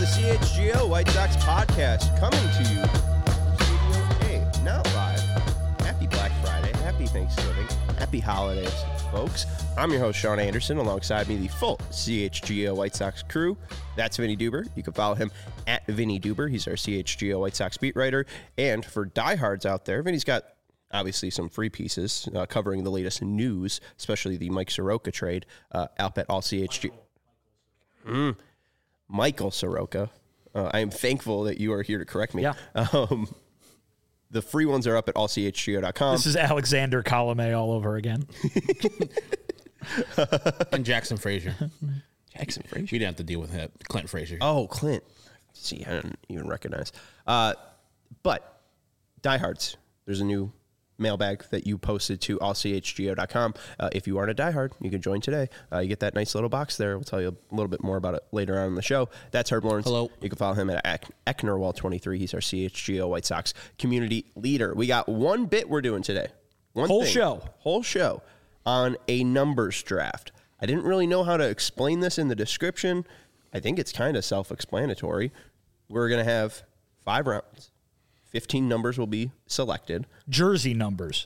the CHGO White Sox podcast, coming to you from Studio A, not live. Happy Black Friday, happy Thanksgiving, happy holidays, folks. I'm your host, Sean Anderson. Alongside me, the full CHGO White Sox crew. That's Vinny Duber. You can follow him at Vinny Duber. He's our CHGO White Sox beat writer. And for diehards out there, Vinny's got obviously some free pieces covering the latest news, especially the Mike Soroka trade up at all CHG. Michael Soroka. I am thankful that you are here to correct me. Yeah. The free ones are up at allchgo.com. This is Alexander Colomé all over again. And Jackson Frazier. Jackson Frazier. We didn't have to deal with that. Clint Frazier. Oh, Clint. See, I didn't even recognize. But diehards, there's a new mailbag that you posted to allchgo.com. If you aren't a diehard, you can join today. You get that nice little box there. We'll tell you a little bit more about it later on in the show. That's Herb Lawrence. Hello. You can follow him at Ecknerwall23. He's our CHGO White Sox community leader. We got one bit we're doing today. Whole show on a numbers draft. I didn't really know how to explain this in the description. I think it's kind of self-explanatory. We're going to have 5 rounds. 15 numbers will be selected. Jersey numbers.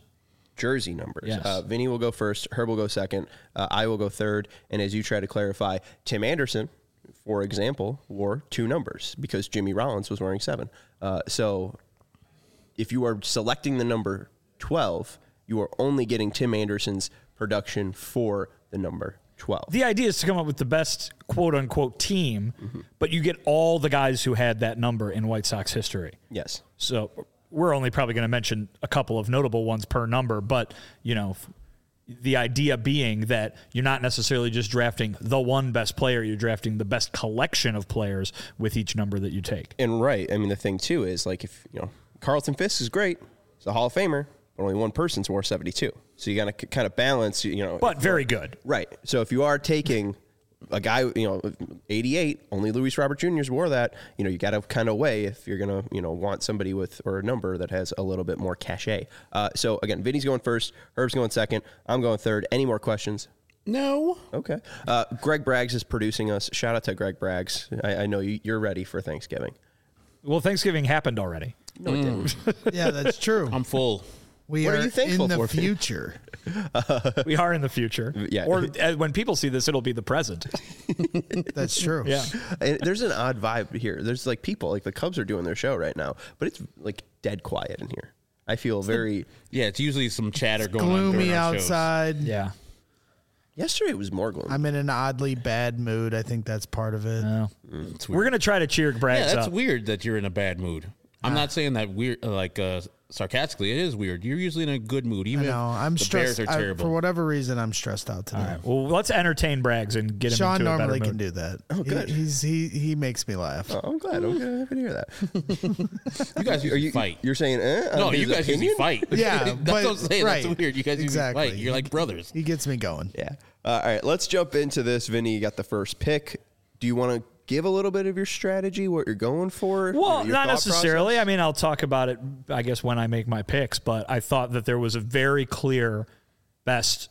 Yes. Vinny will go first. Herb will go second. I will go third. And as you try to clarify, Tim Anderson, for example, wore 2 numbers because Jimmy Rollins was wearing 7. So if you are selecting the number 12, you are only getting Tim Anderson's production for the number 12. The idea is to come up with the best quote-unquote team, but you get all the guys who had that number in White Sox history. Yes. So we're only probably going to mention a couple of notable ones per number, but, you know, the idea being that you're not necessarily just drafting the one best player, you're drafting the best collection of players with each number that you take. And right, I mean, the thing, too, is like if, you know, Carlton Fisk is great. He's a Hall of Famer, but only one person's wore 72. So you got to kind of balance, you know. But very good. Right. So if you are taking a guy, you know, 88, only Luis Robert Jr.'s wore that, you know, you got to kind of weigh if you're going to, you know, want somebody with, or a number that has a little bit more cachet. So again, Vinny's going first, Herb's going second, I'm going third. Any more questions? No. Okay. Greg Braggs is producing us. Shout out to Greg Braggs. I know you're ready for Thanksgiving. Well, Thanksgiving happened already. No, it didn't. Yeah, that's true. I'm full. We What are are you thankful in the for? future. We are in the future. Yeah. Or when people see this, it'll be the present. That's true. Yeah. And there's an odd vibe here. There's like people, like the Cubs are doing their show right now, but it's like dead quiet in here. I feel very. Yeah, it's usually some chatter going on. Gloomy during our shows. outside. Yeah. Yesterday it was more gloomy. I'm in an oddly bad mood. I think that's part of it. It's We're weird. going to try to cheer Braggs Yeah, that's up. weird that you're in a bad mood. I'm not saying that weird, sarcastically. It is weird. You're usually in a good mood, I even know. I'm if the stressed. Bears are terrible. For whatever reason, I'm stressed out today. All right. Well, let's entertain Braggs and get him Sean into a better normally mood. can do that. Oh, good. He makes me laugh. Oh, I'm glad. I'm happy to hear that. You guys usually fight. You're saying, No, on his you guys opinion? usually fight. Yeah, that's but- what I'm saying. right. That's weird. You guys Exactly. usually fight. You're like brothers. He gets me going. Yeah. All right, let's jump into this. Vinny, you got the first pick. Do you want to give a little bit of your strategy, what you're going for? Well, your not thought necessarily. process? I mean, I'll talk about it, I guess, when I make my picks, but I thought that there was a very clear best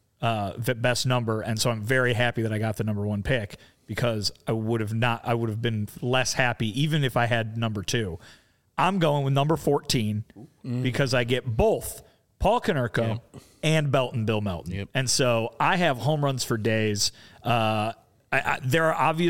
number, and so I'm very happy that I got the number 1 pick because I would have been less happy even if I had number 2. I'm going with number 14 because I get both Paul Konerko and Belton Bill Melton. Yep. And so I have home runs for days. There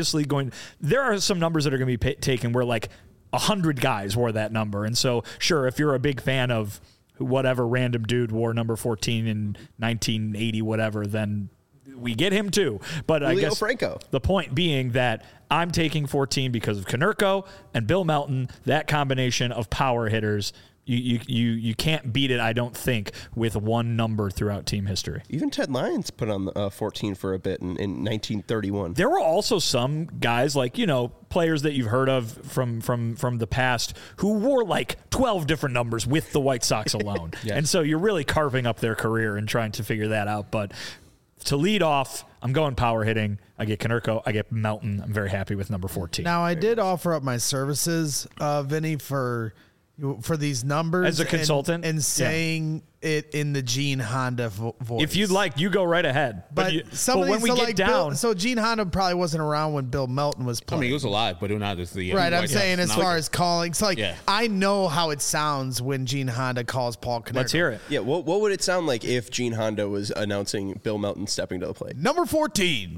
are some numbers that are going to be taken where like 100 guys wore that number. And so, sure, if you're a big fan of whatever random dude wore number 14 in 1980, whatever, then we get him too. But I Julio guess Franco. The point being that I'm taking 14 because of Konerko and Bill Melton, that combination of power hitters. You can't beat it, I don't think, with one number throughout team history. Even Ted Lyons put on 14 for a bit in 1931. There were also some guys like, you know, players that you've heard of from the past who wore like 12 different numbers with the White Sox alone. Yes. And so you're really carving up their career and trying to figure that out. But to lead off, I'm going power hitting. I get Konerko. I get Melton. I'm very happy with number 14. Now, I did offer up my services, Vinny, for for these numbers As a consultant? and Yeah. saying it in the Gene Honda voice. If you'd like, you go right ahead. But, But when we get down, so Gene Honda probably wasn't around when Bill Melton was I playing. mean, he was alive, but not as the Right, I'm White saying Sox. as Not far like- as calling, it's like Yeah. I know how it sounds when Gene Honda calls Paul Konerko. let's hear it. Yeah, what would it sound like if Gene Honda was announcing Bill Melton stepping to the plate? Number 14,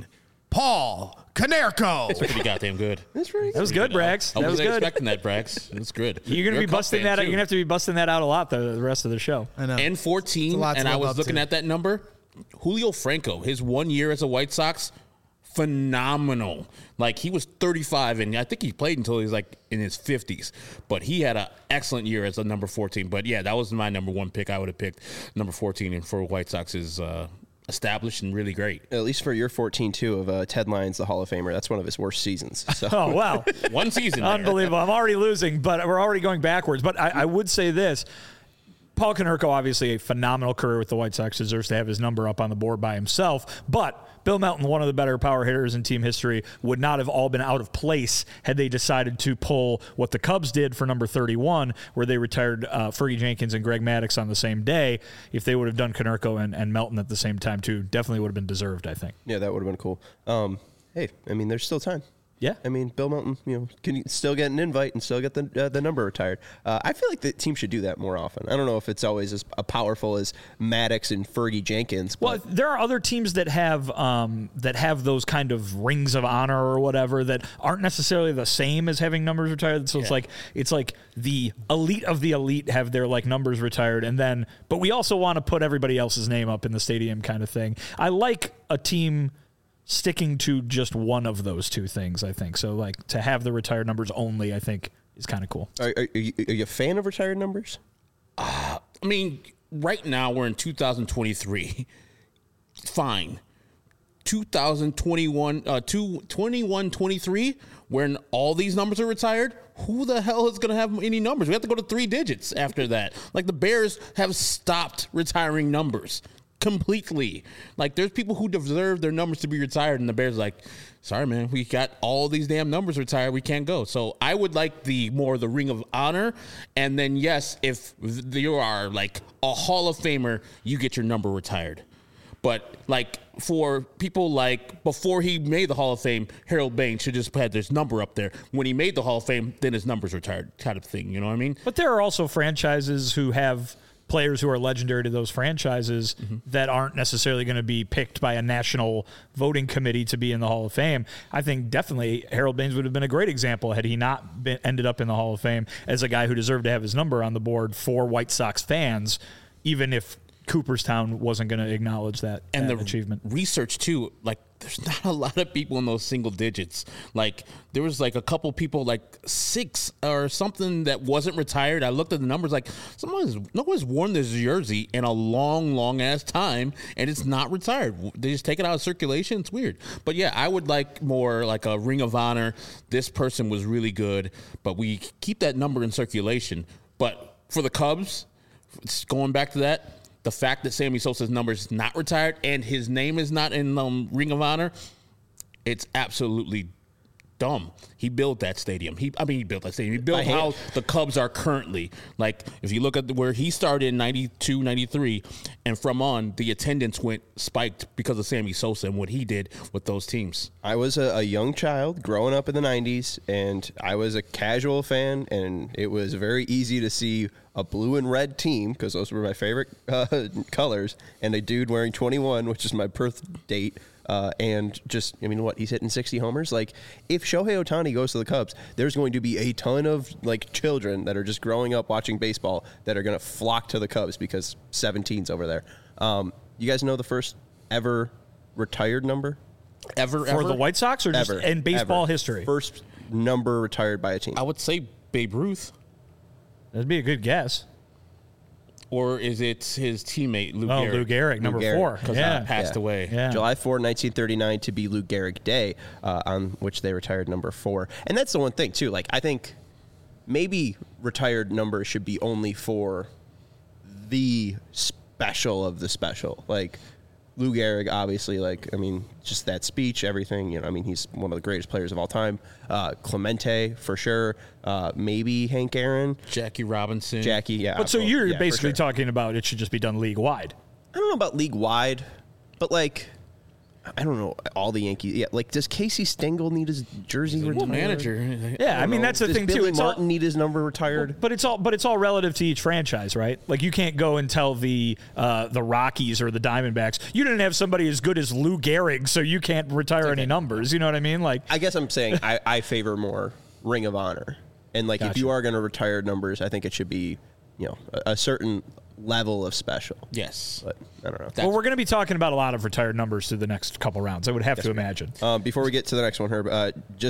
Paul Konerko. It's pretty goddamn good. That's pretty That was good, Brax. I That was wasn't good. expecting that, Brax. It's good. You're gonna a be Cub busting fan, that out. too. You're gonna have to be busting that out a lot the rest of the show. I know. And It's 14, a lot to and I live was up looking to. at that number. Julio Franco, his 1 year as a White Sox, phenomenal. Like, he was 35, and I think he played until he was like in his 50s. But he had an excellent year as a number 14. But yeah, that was my number one pick. I would have picked number 14, and for White Sox is established and really great. At least for your 14 too of Ted Lyons, the Hall of Famer. That's one of his worst seasons. So Oh wow. One season. there. Unbelievable. I'm already losing, but we're already going backwards. But I would say this. Paul Konerko, obviously a phenomenal career with the White Sox, deserves to have his number up on the board by himself. But Bill Melton, one of the better power hitters in team history, would not have all been out of place had they decided to pull what the Cubs did for number 31, where they retired Fergie Jenkins and Greg Maddux on the same day. If they would have done Konerko and Melton at the same time, too, definitely would have been deserved, I think. yeah, that would have been cool. Hey, I mean, there's still time. Yeah. I mean, Bill Melton, can you still get an invite and still get the number retired? I feel like the team should do that more often. I don't know if it's always as powerful as Maddox and Fergie Jenkins. Well, But there are other teams that have those kind of rings of honor or whatever that aren't necessarily the same as having numbers retired. So it's like the elite of the elite have their like numbers retired, but we also want to put everybody else's name up in the stadium kind of thing. I like a team sticking to just one of those two things, I think. So like to have the retired numbers only, I think is kind of cool. are you a fan of retired numbers? I mean, right now we're in 2023. Fine. 2021, 21-23, when all these numbers are retired, who the hell is going to have any numbers? We have to go to 3 digits after that. Like, the Bears have stopped retiring numbers completely. Like, there's people who deserve their numbers to be retired, and the Bears are like, sorry, man, we got all these damn numbers retired. We can't go. So I would like the Ring of Honor. And then, yes, if you are like a Hall of Famer, you get your number retired. But like for people like before he made the Hall of Fame, Harold Baines should just had his number up there. When he made the Hall of Fame, then his number's retired, kind of thing. You know what I mean? But there are also franchises who have players who are legendary to those franchises that aren't necessarily going to be picked by a national voting committee to be in the Hall of Fame. I think definitely Harold Baines would have been a great example had he not ended up in the Hall of Fame as a guy who deserved to have his number on the board for White Sox fans, even if Cooperstown wasn't going to acknowledge that achievement. Research too, like there's not a lot of people in those single digits. Like there was like a couple people, like 6 or something that wasn't retired. I looked at the numbers, like no one's worn this jersey in a long ass time, and it's not retired. They just take it out of circulation. It's weird. But yeah, I would like more like a Ring of Honor. This person was really good, but we keep that number in circulation. But for the Cubs, going back to that, the fact that Sammy Sosa's number is not retired and his name is not in Ring of Honor, it's absolutely dumb. He built that stadium. He built that stadium. He built how the Cubs are currently. Like, if you look at where he started in 92, 93, and from on, the attendance spiked because of Sammy Sosa and what he did with those teams. I was a young child growing up in the 90s, and I was a casual fan, and it was very easy to see a blue and red team, because those were my favorite colors, and a dude wearing 21, which is my birth date, and just, I mean, he's hitting 60 homers. Like, if Shohei Ohtani goes to the Cubs, there's going to be a ton of, like, children that are just growing up watching baseball that are going to flock to the Cubs because 17's over there. You guys know the first ever retired number? Ever? For the White Sox or just in baseball history? First number retired by a team. I would say Babe Ruth. That'd be a good guess. Or is it his teammate, Lou Oh, Gehrig? Lou Gehrig, number Gehrig, 4. Because he passed away. Yeah. July 4, 1939 to be Lou Gehrig Day, on which they retired number 4. And that's the one thing, too. Like, I think maybe retired numbers should be only for the special of the special. Like, Lou Gehrig, obviously, just that speech, everything. He's one of the greatest players of all time. Clemente, for sure. Maybe Hank Aaron. Jackie Robinson. Jackie, yeah. But so you're for basically sure. talking about it should just be done league wide. I don't know about league wide, but I don't know all the Yankees. Yeah, does Casey Stengel need his jersey retired? Manager. Yeah, that's the Does thing Billy too. Martin need his number retired? But it's all relative to each franchise, right? Like you can't go and tell the Rockies or the Diamondbacks you didn't have somebody as good as Lou Gehrig, so you can't retire any numbers. You know what I mean? I guess I'm saying I favor more Ring of Honor, and if Gotcha. you are going to retire numbers, I think it should be a certain level of special. Yes. But I don't know. Well, we're going to be talking about a lot of retired numbers through the next couple rounds. I would have to imagine. Before we get to the next one, Herb,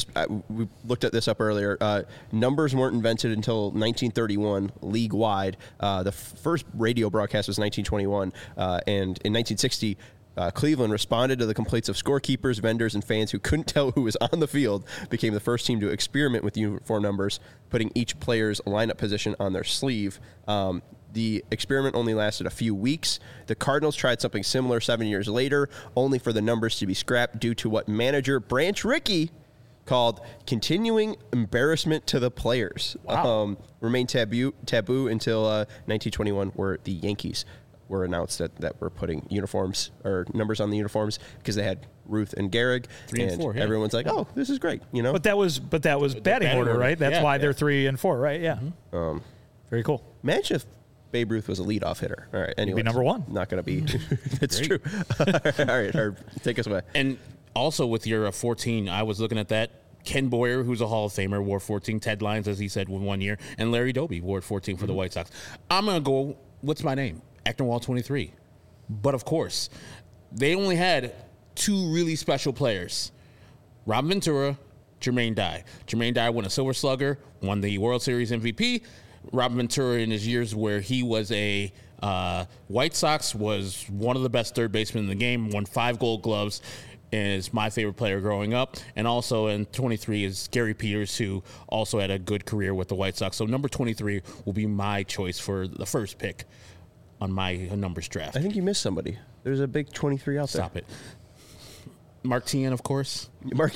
we looked at this up earlier. Numbers weren't invented until 1931, league-wide. The first radio broadcast was 1921, and in 1960, Cleveland responded to the complaints of scorekeepers, vendors, and fans who couldn't tell who was on the field, became the first team to experiment with uniform numbers, putting each player's lineup position on their sleeve. The experiment only lasted a few weeks. The Cardinals tried something similar 7 years later, only for the numbers to be scrapped due to what manager Branch Rickey called continuing embarrassment to the players. Wow. Remained taboo until 1921, where the Yankees were announced that we're putting uniforms or numbers on the uniforms because they had Ruth and Gehrig. 3 and 4, yeah. Everyone's like, oh, this is great. But that was batting order, right? That's why they're 3 and 4, right? Yeah. Mm-hmm. Very cool. Imagine if Babe Ruth was a leadoff hitter. All right, anyway. Be number one. Not going to be. It's true. All right, Herb, take us away. And also with your 14, I was looking at that. Ken Boyer, who's a Hall of Famer, wore 14. Ted Lyons, as he said, with 1 year. And Larry Doby wore 14 for the White Sox. I'm going to go, what's my name? Ecknerwall 23. But, of course, they only had 2 really special players. Robin Ventura, Jermaine Dye. Jermaine Dye won a Silver Slugger, won the World Series MVP. Robin Ventura, in his years where he was a White Sox, was one of the best third basemen in the game, won 5 Gold Gloves, and is my favorite player growing up. And also in 23 is Gary Peters, who also had a good career with the White Sox. So number 23 will be my choice for the first pick on my numbers draft. I think you missed somebody. There's a big 23 out there. Stop it. Mark Tien, of course. Mark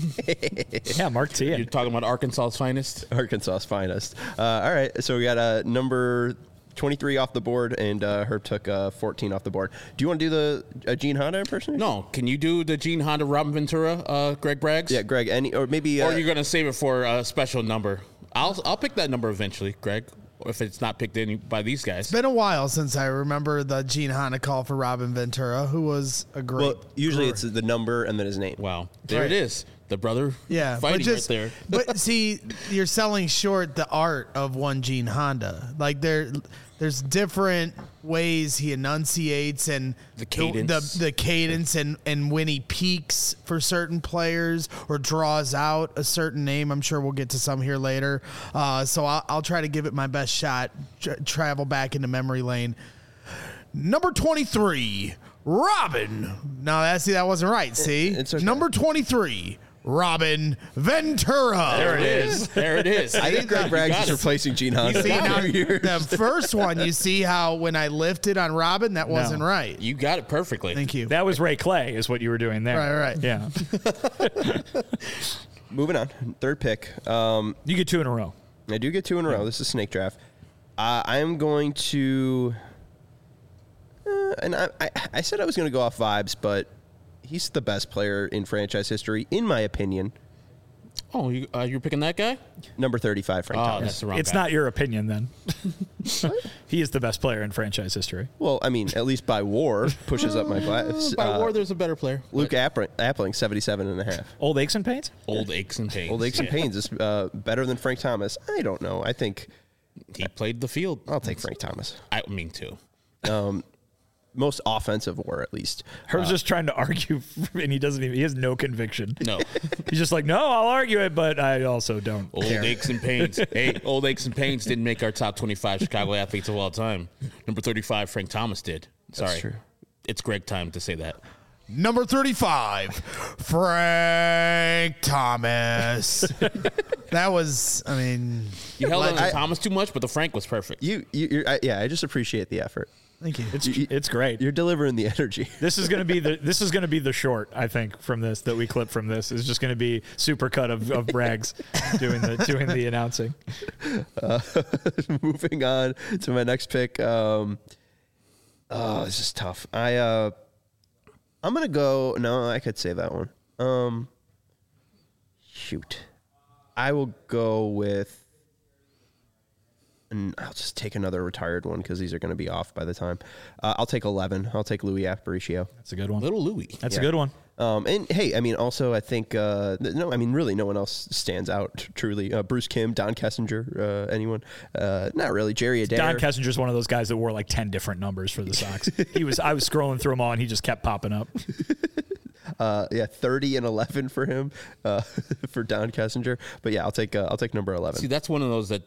Yeah, Mark Tien. You're talking about Arkansas's finest. Arkansas's finest. All right, so we got number 23 off the board, and Herb took 14 off the board. Do you want to do the Gene Honda impersonation? No, can you do the Gene Honda Robin Ventura, Greg Braggs? Yeah, Greg. Or maybe. Or you're gonna save it for a special number. I'll pick that number eventually, Greg. If it's not picked by these guys. It's been a while since I remember the Gene Honda call for Robin Ventura, who was a great. Well, usually it's the number and then his name. Wow, there Right. it is. The brother fighting right there. But see, you're selling short the art of one Gene Honda. There's different ways he enunciates and The cadence. the cadence and when he peaks for certain players or draws out a certain name. I'm sure we'll get to some here later. So I'll try to give it my best shot. Travel back into memory lane. Number 23, Robin. No, that wasn't right. See, It's okay. Number 23. Robin Ventura. There it is. There it is. I think Greg Braggs got is it. replacing Gene Honda. See, now, for years. the first one, you see how when I lifted on Robin, that wasn't right. You got it perfectly. Thank you. That was Ray Clay, is what you were doing there. Right. Yeah. Moving on, third pick. You get 2 in a row. I do get 2 in a row. This is snake draft. I am going to, and I said I was going to go off vibes, but he's the best player in franchise history, in my opinion. Oh, you're picking that guy? Number 35, Frank Oh, Thomas. that's the wrong It's guy. not your opinion then. He is the best player in franchise history. Well, I mean, at least by WAR pushes up my class. By war, there's a better player. Luke Appling, 77 and a half. Old aches and pains? Old aches and pains. Old aches and Yeah. pains is better than Frank Thomas. I don't know. I think He played the field. I'll take Frank Thomas. I mean, too. Most offensive WAR, at least. Herb's just trying to argue, and he has no conviction. No. He's just like, no, I'll argue it, but I also don't. Old aches and pains. Hey, old aches and pains didn't make our top 25 Chicago athletes of all time. Number 35, Frank Thomas did. Sorry. true. It's Greg time to say that. Number 35, Frank Thomas. That was, You held on to I- Thomas too much, but the Frank was perfect. I just appreciate the effort. Thank you. It's great. You're delivering the energy. This is going to be the short, I think, from this that we clip from this. Is just going to be supercut of Braggs doing the announcing. Moving on to my next pick. This is tough. I'm gonna go. No, I could say that one. Shoot, I will go with. And I'll just take another retired one because these are going to be off by the time. I'll take 11. I'll take Louis Aparicio. That's a good one. Little Louis. That's a good one. And hey, I mean, also I think really no one else stands out truly. Bruce Kim, Don Kessinger, anyone? Not really. Jerry Adair. Don Kessinger's one of those guys that wore like 10 different numbers for the Sox. I was scrolling through them all, and he just kept popping up. 30 and 11 for him, for Don Kessinger. But yeah, I'll take number 11. See, that's one of those that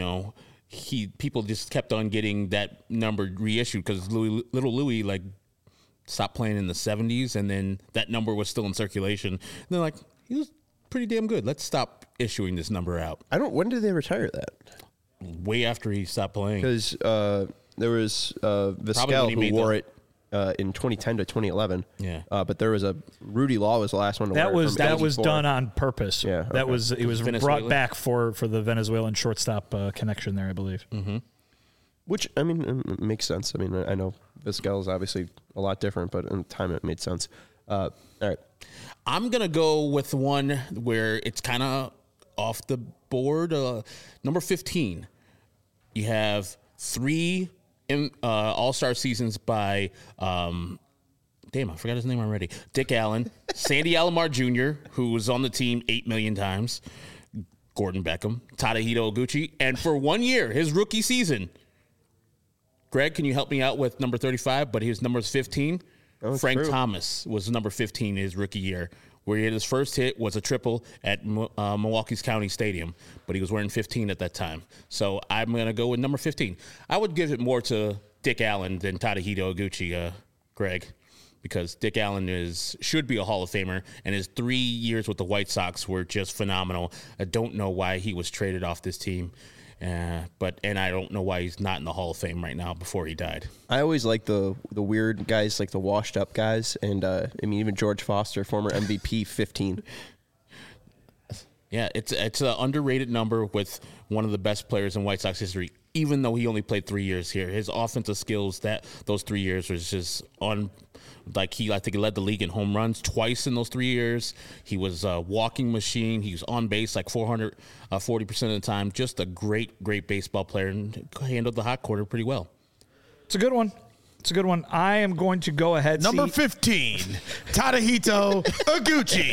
people just kept on getting that number reissued because little Louis like stopped playing in the 70s, and then that number was still in circulation. And they're like, he was pretty damn good. Let's stop issuing this number out. When did they retire that? Way after he stopped playing. Because there was Vizquel who wore it in 2010 to 2011. Yeah. But there was Rudy Law was the last one to wear it. That was done on purpose. Yeah. It was Venezuela? brought back for the Venezuelan shortstop connection there, I believe. Mm-hmm. Which, I mean, it makes sense. I mean, I know Vizquel is obviously a lot different, but in time it made sense. All right. I'm going to go with one where it's kind of off the board. Number 15. You have 3 all-star seasons by, I forgot his name already. Dick Allen, Sandy Alomar Jr., who was on the team 8 million times, Gordon Beckham, Tadahito Oguchi, and for 1 year, his rookie season, Greg, can you help me out with number 35? But his number is 15. Frank Thomas was number 15 in his rookie year, where he had his first hit was a triple at Milwaukee's County Stadium, but he was wearing 15 at that time. So I'm going to go with number 15. I would give it more to Dick Allen than Tadahito Oguchi, Greg, because Dick Allen should be a Hall of Famer, and his 3 years with the White Sox were just phenomenal. I don't know why he was traded off this team. And I don't know why he's not in the Hall of Fame right now before he died. I always like the weird guys, like the washed up guys, and even George Foster, former MVP, 15. Yeah, it's an underrated number with one of the best players in White Sox history. Even though he only played 3 years here, his offensive skills those 3 years was just on. I think he led the league in home runs twice in those 3 years. He was a walking machine. He was on base like 40% of the time. Just a great, great baseball player and handled the hot corner pretty well. It's a good one. I am going to go ahead. Number 15, Tadahito Oguchi.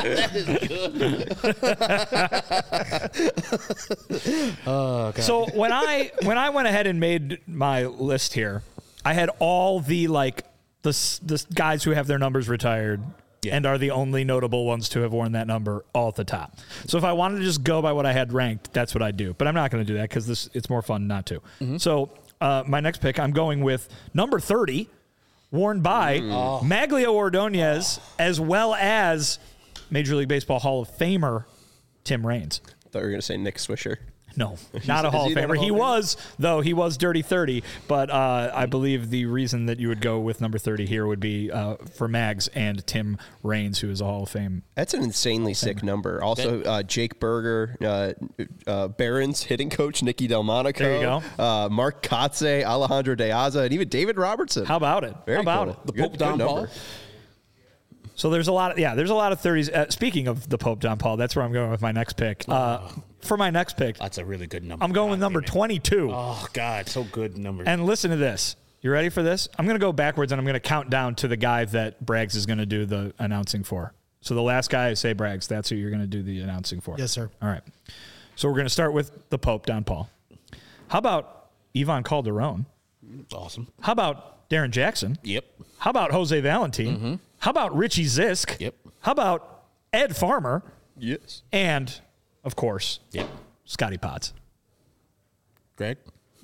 Oh, God. So when I went ahead and made my list here, I had all the the guys who have their numbers retired and are the only notable ones to have worn that number all at the top. So if I wanted to just go by what I had ranked, that's what I'd do. But I'm not going to do that because it's more fun not to. Mm-hmm. So my next pick, I'm going with number 30, worn by Maglio Ordonez, as well as Major League Baseball Hall of Famer Tim Raines. I thought you were going to say Nick Swisher. No, not a Hall of Famer. He was Dirty 30, but I believe the reason that you would go with number 30 here would be for Mags and Tim Raines, who is a Hall of Fame. That's an insanely sick number. Also, Jake Berger, Barron's hitting coach, Nicky Delmonico. There you go. Mark Kotze, Alejandro De Aza, and even David Robertson. How about it? Very How about cool. it? The Pope Don Paul. So there's a lot of 30s. Speaking of the Pope Don Paul, that's where I'm going with my next pick. For my next pick, That's a really good number. I'm going with number 22. Oh, God, so good number. And listen to this. You ready for this? I'm going to go backwards, and I'm going to count down to the guy that Braggs is going to do the announcing for. So the last guy I say Braggs, that's who you're going to do the announcing for. Yes, sir. All right. So we're going to start with the Pope Don Paul. How about Ivan Calderon? Awesome. How about Darren Jackson? Yep. How about Jose Valentin? Mm-hmm. How about Richie Zisk? Yep. How about Ed Farmer? Yes. And, of course, Yep. Scotty Potts. Greg?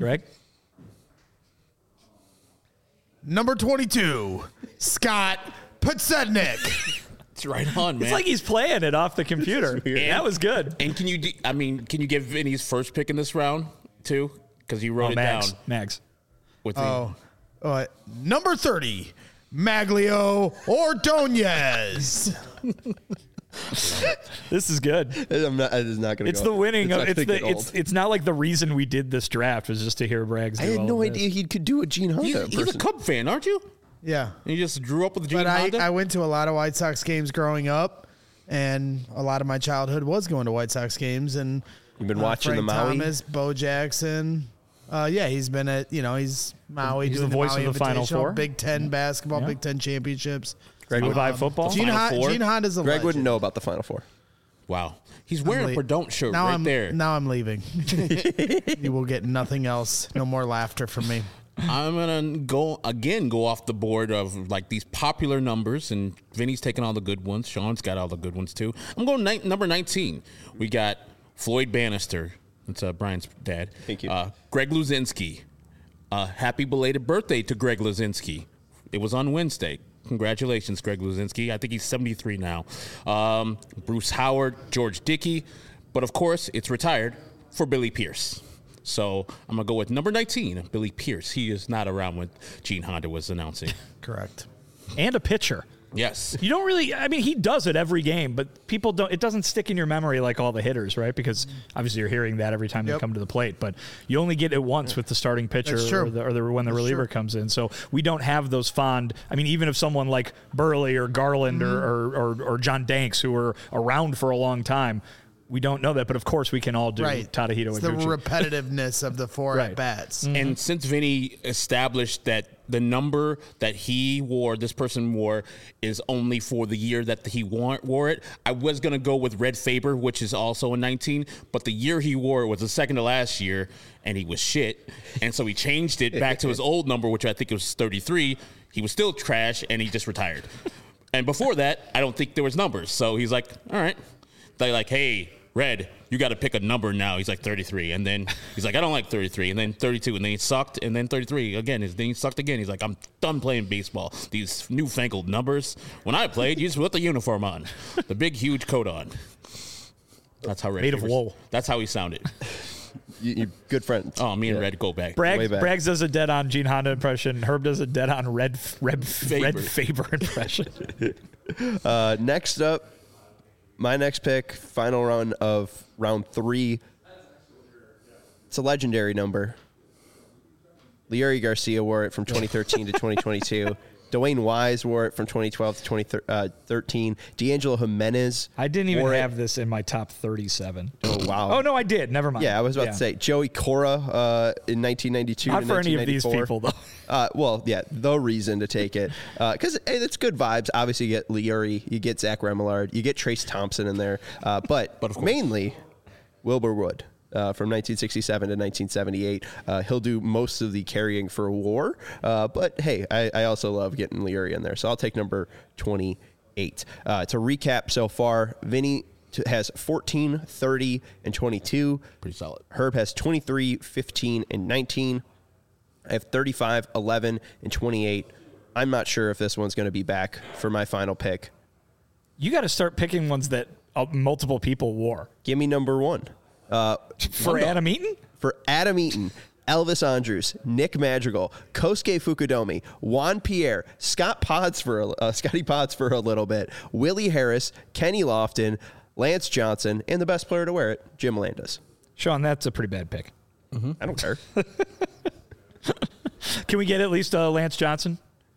Number 22, Scott Podsednik. It's right on, man. It's like he's playing it off the computer. That was good. And can you give Vinny's first pick in this round, too? Because you wrote it Mags. down. Mags. With Oh, Number 30, Maglio Ordonez. This is good. It is not going to. It's the winning. It's It's not like the reason we did this draft was just to hear Braggs. I had no idea he could do a Gene Honda. He's a Cub fan, aren't you? Yeah. And you just grew up with Gene But Honda? I went to a lot of White Sox games growing up, and a lot of my childhood was going to White Sox games. And You've been watching Frank the Maui? Thomas, Bo Jackson. Yeah, he's been at, he's Maui. He's doing the voice Maui of the Final Invitational, Four. Big Ten basketball, Yeah. Big Ten championships. Greg would buy football. Gene Honda's a Greg legend. wouldn't know about the Final Four. Wow. He's wearing a Perdon't shirt now right there. Now I'm leaving. You will get nothing else. No more laughter from me. I'm going to go off the board of like these popular numbers, and Vinny's taking all the good ones. Sean's got all the good ones too. I'm going number 19. We got Floyd Bannister. That's Brian's dad. Thank you. Greg Luzinski. Happy belated birthday to Greg Luzinski. It was on Wednesday. Congratulations, Greg Luzinski. I think he's 73 now. Bruce Howard, George Dickey. But, of course, it's retired for Billy Pierce. So I'm going to go with number 19, Billy Pierce. He is not around when Gene Honda was announcing. Correct. And a pitcher. Yes. You don't really, I mean, he does it every game, but people don't, it doesn't stick in your memory like all the hitters, right? Because obviously you're hearing that every time they come to the plate, but you only get it once with the starting pitcher or when the reliever comes in. So we don't have those fond, I mean, even if someone like Burley or Garland or John Danks, who were around for a long time, we don't know that, but of course we can all do Tadahito It's and the Gucci. repetitiveness of the four at-bats. Mm-hmm. And since Vinny established that the number that he wore, this person wore, is only for the year that he wore it, I was going to go with Red Faber, which is also a 19, but the year he wore it was the second to last year, and he was shit. And so he changed it back to his old number, which I think was 33. He was still trash, and he just retired. And before that, I don't think there was numbers. So he's like, all right. They're like, hey, Red, you got to pick a number now. He's like 33. And then he's like, I don't like 33. And then 32. And then he sucked. And then 33 again. Then he sucked again. He's like, I'm done playing baseball. These newfangled numbers. When I played, you just put the uniform on. The big, huge coat on. That's how Red Made of wool. That's how he sounded. You're good friends. Oh, me and Red go back. Braggs does a dead-on Gene Honda impression. Herb does a dead-on Red Faber impression. Next up, my next pick, final run of round 3. It's a legendary number. Leury Garcia wore it from 2013 to 2022. Dwayne Wise wore it from 2012 to 2013. D'Angelo Jimenez. I didn't even have this in my top 37. Oh, wow. Oh, no, I did. Never mind. Yeah, I was about to say. Joey Cora in 1992 Not to for any of these 1994. people, though. Well, yeah, the reason to take it. Because it's good vibes. Obviously, you get Leury, you get Zach Remillard, you get Trace Thompson in there. But mainly, Wilbur Wood. From 1967 to 1978. He'll do most of the carrying for WAR. But, hey, I also love getting Leury in there. So I'll take number 28. To recap so far, Vinny has 14, 30, and 22. Pretty solid. Herb has 23, 15, and 19. I have 35, 11, and 28. I'm not sure if this one's going to be back for my final pick. You got to start picking ones that multiple people wore. Give me number 1. For Adam Eaton? For Adam Eaton, Elvis Andrus, Nick Madrigal, Kosuke Fukudomi, Juan Pierre, Scotty Potts for a little bit, Willie Harris, Kenny Lofton, Lance Johnson, and the best player to wear it, Jim Landis. Sean, that's a pretty bad pick. Mm-hmm. I don't care. Can we get at least Lance Johnson?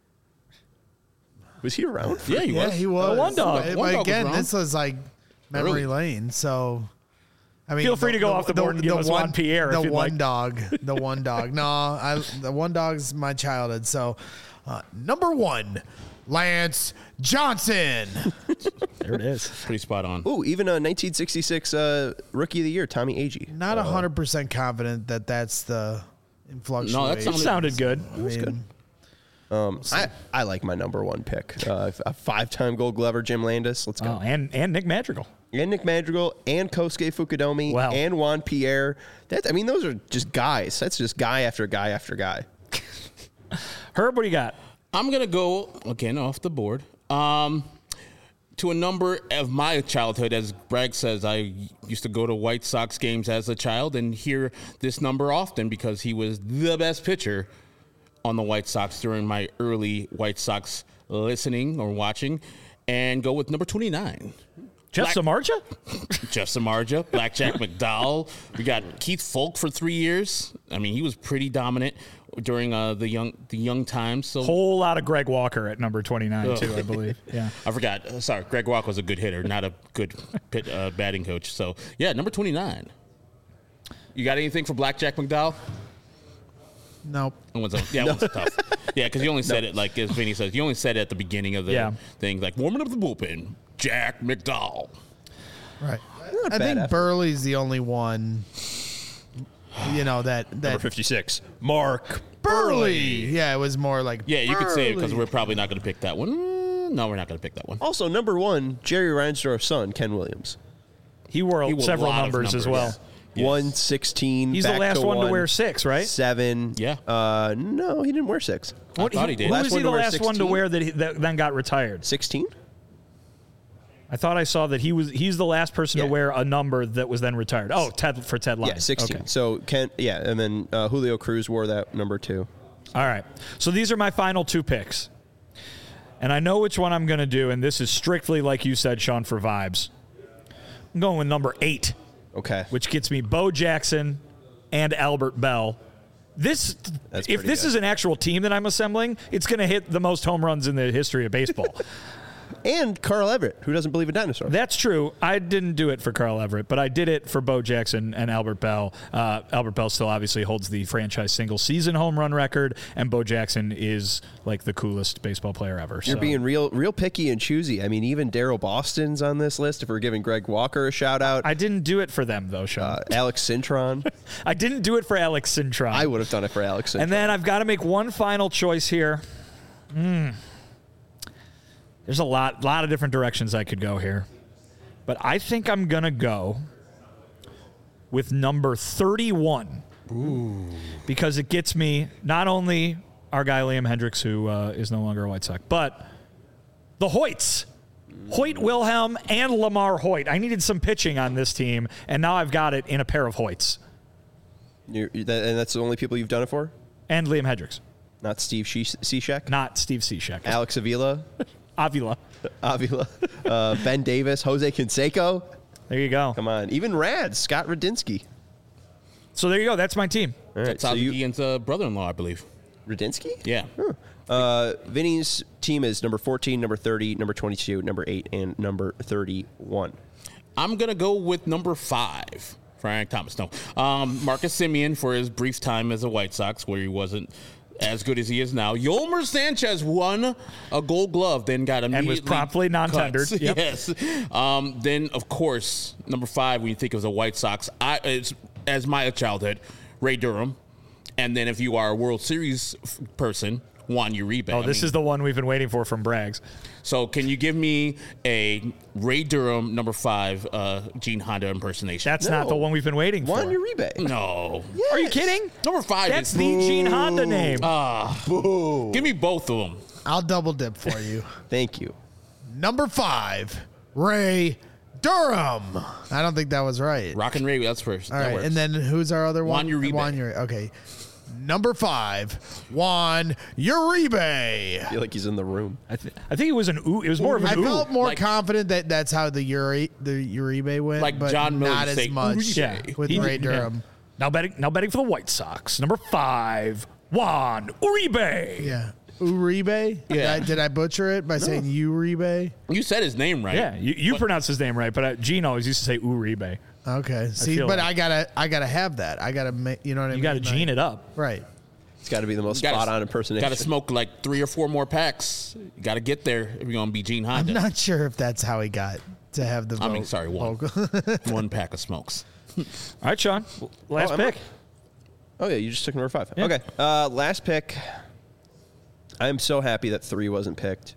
Was he around? Yeah, he was. He was. The one dog. But One dog was again, wrong. this was like memory lane. So, I mean, Feel free to go off the board and give us Juan Pierre The if you'd one like. dog. The one dog. No, the one dog's my childhood. So, number 1, Lance Johnson. There it is. Pretty spot on. Ooh, even a 1966 Rookie of the Year, Tommy Agee. Not 100% confident that that's the influction. No, that It sounded good. Good. I like my number 1 pick. A 5-time Gold Glover, Jim Landis. Let's go. Oh, and Nick Madrigal. And Nick Madrigal, and Kosuke Fukudomi, Wow. and Juan Pierre. Those are just guys. That's just guy after guy after guy. Herb, what do you got? I'm going to go, again, off the board, to a number of my childhood. As Bragg says, I used to go to White Sox games as a child and hear this number often because he was the best pitcher. on the White Sox during my early White Sox listening or watching, and go with number 29. Jeff Samardzija? Jeff Samardzija, Blackjack McDowell. We got Keith Folk for 3 years. I mean, he was pretty dominant during the young times. So Whole lot of Greg Walker at number 29 too, I believe. Yeah. I forgot. Sorry, Greg Walker was a good hitter, not a good batting coach. So yeah, number 29. You got anything for Blackjack McDowell? Nope. That one's tough. Yeah, because you only said it like as Vinny says. You only said it at the beginning of the thing, like warming up the bullpen. Jack McDowell. Right. I think Burley's the only one. That Number 56, Mark Burley. Yeah, it was more like Yeah, you could say it because Burley. we're probably not going to pick that one. No, we're not going to pick that one. Also, number 1, Jerry Reinsdorf's son, Ken Williams. He wore He wore a several lot of numbers as numbers. well. Yes. 116. He's the back last to one to wear 6, right? 7. Yeah. No, he didn't wear 6. I thought he did. Who Last was one he to the wear last one to 16? wear that then got retired? 16. I thought I saw that he's the last person to Yeah. wear a number that was then retired. Oh, Ted Lyons. Yeah, 16. Okay. So Ken, and then Julio Cruz wore that number 2. All right. So these are my final 2 picks. And I know which one I'm going to do, and this is strictly, like you said, Sean, for vibes. I'm going with number 8, Okay. which gets me Bo Jackson and Albert Bell. If pretty this good. is an actual team that I'm assembling, it's going to hit the most home runs in the history of baseball. And Carl Everett, who doesn't believe in dinosaurs. That's true. I didn't do it for Carl Everett, but I did it for Bo Jackson and Albert Bell. Albert Bell still obviously holds the franchise single-season home run record, and Bo Jackson is like the coolest baseball player ever. You're so. being real picky and choosy. I mean, even Daryl Boston's on this list. If we're giving Greg Walker a shout out, I didn't do it for them, though, Sean. Alex Cintron. I didn't do it for Alex Cintron. I would have done it for Alex Cintron. And then I've got to make one final choice here. There's a lot of different directions I could go here. But I think I'm going to go with number 31. Ooh. Because it gets me not only our guy Liam Hendricks, who is no longer a White Sox, but the Hoyts. Hoyt Wilhelm and Lamar Hoyt. I needed some pitching on this team, and now I've got it in a pair of Hoyts. And that's the only people you've done it for? And Liam Hendricks. Not Steve Cishek? Not Steve Cishek. Alex Avila? Avila. Ben Davis? Jose Canseco? There you go. Come on. Even Rad, Scott Radinsky. So there you go. That's my team. All right, That's Ozzie Guillen's brother-in-law, I believe. Radinsky? Yeah. Vinny's team is number 14, number 30, number 22, number 8, and number 31. I'm going to go with number 5. Frank Thomas. No. Marcus Semien for his brief time as a White Sox, where he wasn't as good as he is now. Yolmer Sanchez won a Gold Glove, then got immediately And was promptly non-tendered. cut. Yep. Yes. Then, of course, number 5, when you think of the White Sox, as my childhood, Ray Durham. And then if you are a World Series person, Juan Uribe. Oh, this is the one we've been waiting for from Braggs. So can you give me a Ray Durham number 5 Gene Honda impersonation? That's not the one we've been waiting Juan for. Uribe. No. Are you kidding? Number 5 That's is the Gene Honda name. Give me both of them. I'll double dip for you. Thank you. Number 5, Ray Durham. I don't think that was right. Rock and Ray, that's first. All That right, works. and then who's our other one? Juan Uribe. Juan Uribe. Okay. Number 5, Juan Uribe. I feel like he's in the room. I think it was an ooh. It was more of an I ooh. felt more Like- confident that that's how the Uribe went, Like but John Miller not would as say, much Uribe. Yeah. with He- Ray yeah. Durham. Now betting for the White Sox. Number 5, Juan Uribe. Yeah. Uribe? Yeah. Did I butcher it by saying Uribe? You said his name right. Yeah, you pronounced his name right, but Gene always used to say Uribe. Okay. See, feel but like- I gotta have that. I gotta make, you know what I mean? You got to Like- Gene it up. Right. It's got to be the most Gotta- spot-on impersonation. Got to smoke like 3 or 4 more packs. You got to get there if you're going to be Gene I'm Honda. not sure if that's how he got to have the I mean, vote- sorry, one. vocal. 1 pack of smokes. All right, Sean. Last am pick. Oh, yeah, you just took number 5. Yeah. Okay, last pick. I am so happy that 3 wasn't picked.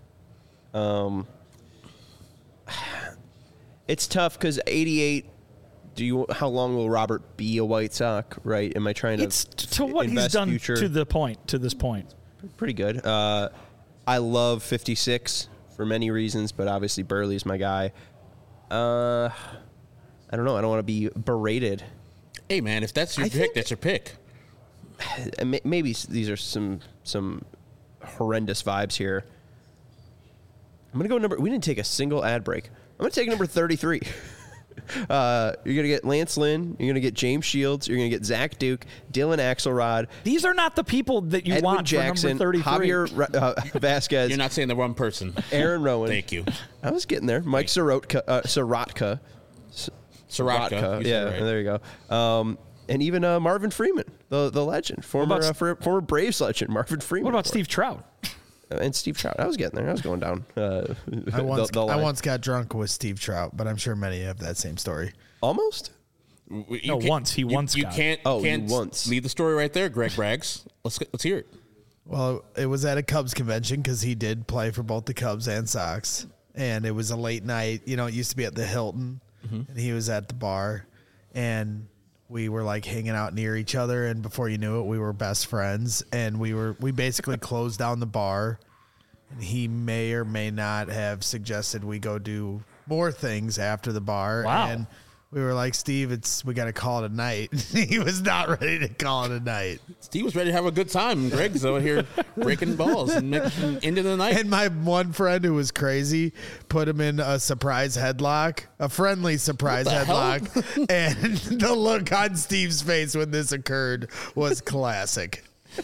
It's tough because 88. How long will Robert be a White Sox? Right? Am I trying to? It's to what he's invest done future? to this point. Pretty good. I love 56 for many reasons, but obviously Burley's my guy. I don't know. I don't want to be berated. Hey, man, if that's your pick, that's your pick. maybe these are some horrendous vibes here. I'm going to go we didn't take a single ad break. I'm going to take number 33. You're going to get Lance Lynn. You're going to get James Shields. You're going to get Zach Duke, Dylan Axelrod. These are not the people that you Edwin want Jackson, for number 33. Javier Vasquez. You're not saying the wrong person. Aaron Rowan. Thank you. I was getting there. Mike Sorotka. Sorotka. Yeah, Right. there you go. And even Marvin Freeman, the legend, former Braves legend, Marvin Freeman. What about Steve Trout? And Steve Trout? I was getting there. I was going down. I once got drunk with Steve Trout, but I'm sure many have that same story. Almost. Once he got. You can't once. leave the story right there, Greg Braggs. Let's hear it. Well, it was at a Cubs convention because he did play for both the Cubs and Sox. And it was a late night. You know, it used to be at the Hilton. And he was at the bar. And we were like hanging out near each other. And before you knew it, we were best friends. And we basically closed down the bar. And he may or may not have suggested we go do more things after the bar. Wow. And we were like, Steve, we got to call it a night. He was not ready to call it a night. Steve was ready to have a good time. Greg's over here breaking balls and making into the night. And my one friend who was crazy put him in a surprise headlock, a friendly surprise headlock. And the look on Steve's face when this occurred was classic.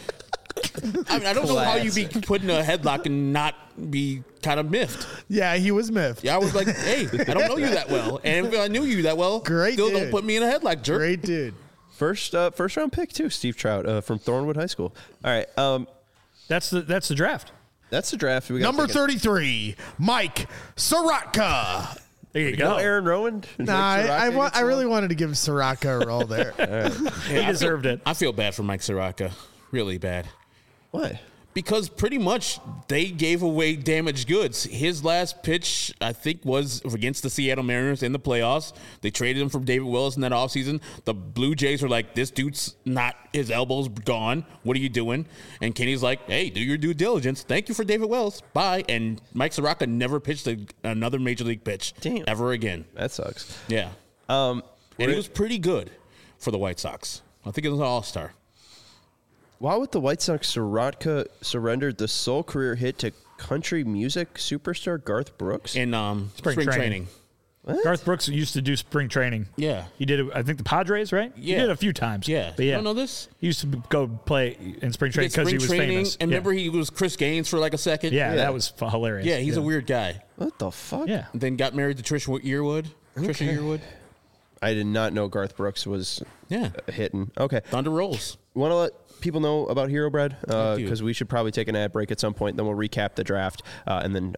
I mean, I don't know how you be put in a headlock and not be kind of miffed. Yeah, he was miffed. Yeah, I was like, hey, I don't know you that well. And if I knew you that well, still don't put me in a headlock, jerk. Great dude. First round pick too, Steve Trout from Thornwood High School. All right, That's the draft. that's the draft. We got Number 33, Mike Sorotka. There you No go. Aaron Rowan. Nah, I really wanted to give Sorotka a roll there. He deserved it. I feel bad for Mike Soroka. Really bad. Why? Because pretty much they gave away damaged goods. His last pitch, I think, was against the Seattle Mariners in the playoffs. They traded him from David Wells in that offseason. The Blue Jays were like, this dude's not, his elbow's gone. What are you doing? And Kenny's like, hey, do your due diligence. Thank you for David Wells. Bye. And Mike Soroka never pitched another major league pitch ever again. That sucks. Yeah. And he was pretty good for the White Sox. I think it was an all-star. Why would the White Sox Sorotka surrendered the sole career hit to country music superstar Garth Brooks? In spring training. What? Garth Brooks used to do spring training. Yeah. He did it, I think the Padres, right? Yeah. He did it a few times. Yeah. But yeah. You don't know this? He used to go play in spring training because he was famous. And yeah. remember he was Chris Gaines for like a second? Yeah, that was hilarious. Yeah, he's a weird guy. What the fuck? Yeah. And then got married to Trisha Yearwood. Trisha Yearwood. I did not know Garth Brooks was Yeah. hitting. Okay. Thunder rolls. Want to let people know about Hero Bread? do. Because we should probably take an ad break at some point. Then we'll recap the draft. And then,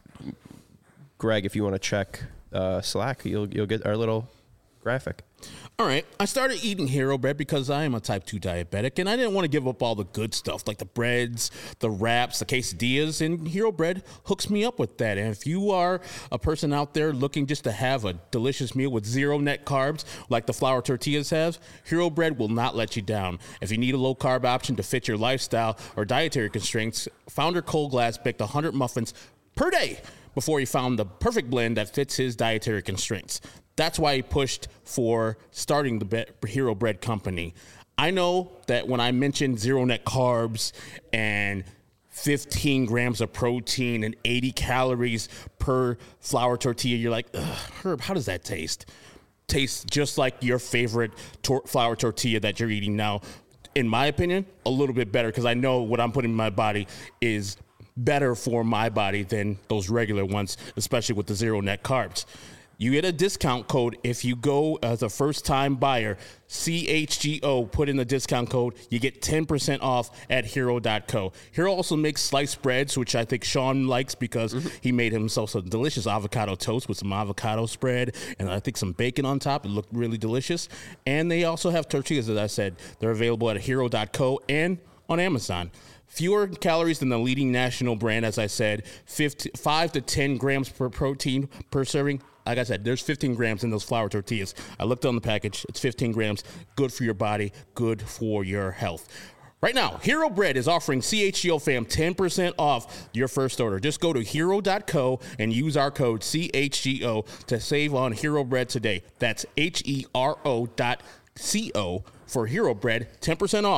Greg, if you want to check Slack, you'll get our little graphic. All right. I started eating Hero Bread because I am a type 2 diabetic, and I didn't want to give up all the good stuff like the breads, the wraps, the quesadillas, and Hero Bread hooks me up with that. And if you are a person out there looking just to have a delicious meal with zero net carbs like the flour tortillas have, Hero Bread will not let you down. If you need a low-carb option to fit your lifestyle or dietary constraints, founder Cole Glass baked 100 muffins per day before he found the perfect blend that fits his dietary constraints. That's why he pushed for starting the Hero Bread company. I know that when I mentioned zero net carbs and 15 grams of protein and 80 calories per flour tortilla, you're like, Herb, how does that taste? Tastes just like your favorite flour tortilla that you're eating now. In my opinion, a little bit better because I know what I'm putting in my body is better for my body than those regular ones, especially with the zero net carbs. You get a discount code if you go as a first-time buyer, CHGO, put in the discount code, you get 10% off at Hero.co. Hero also makes sliced breads, which I think Sean likes because he made himself some delicious avocado toast with some avocado spread and I think some bacon on top. It looked really delicious. And they also have tortillas, as I said. They're available at Hero.co and on Amazon. Fewer calories than the leading national brand, as I said, 5 to 10 grams per protein per serving. Like I said, there's 15 grams in those flour tortillas. I looked on the package. It's 15 grams. Good for your body. Good for your health. Right now, Hero Bread is offering CHGO fam 10% off your first order. Just go to Hero.co and use our code CHGO to save on Hero Bread today. That's HERO.co for Hero Bread. 10% off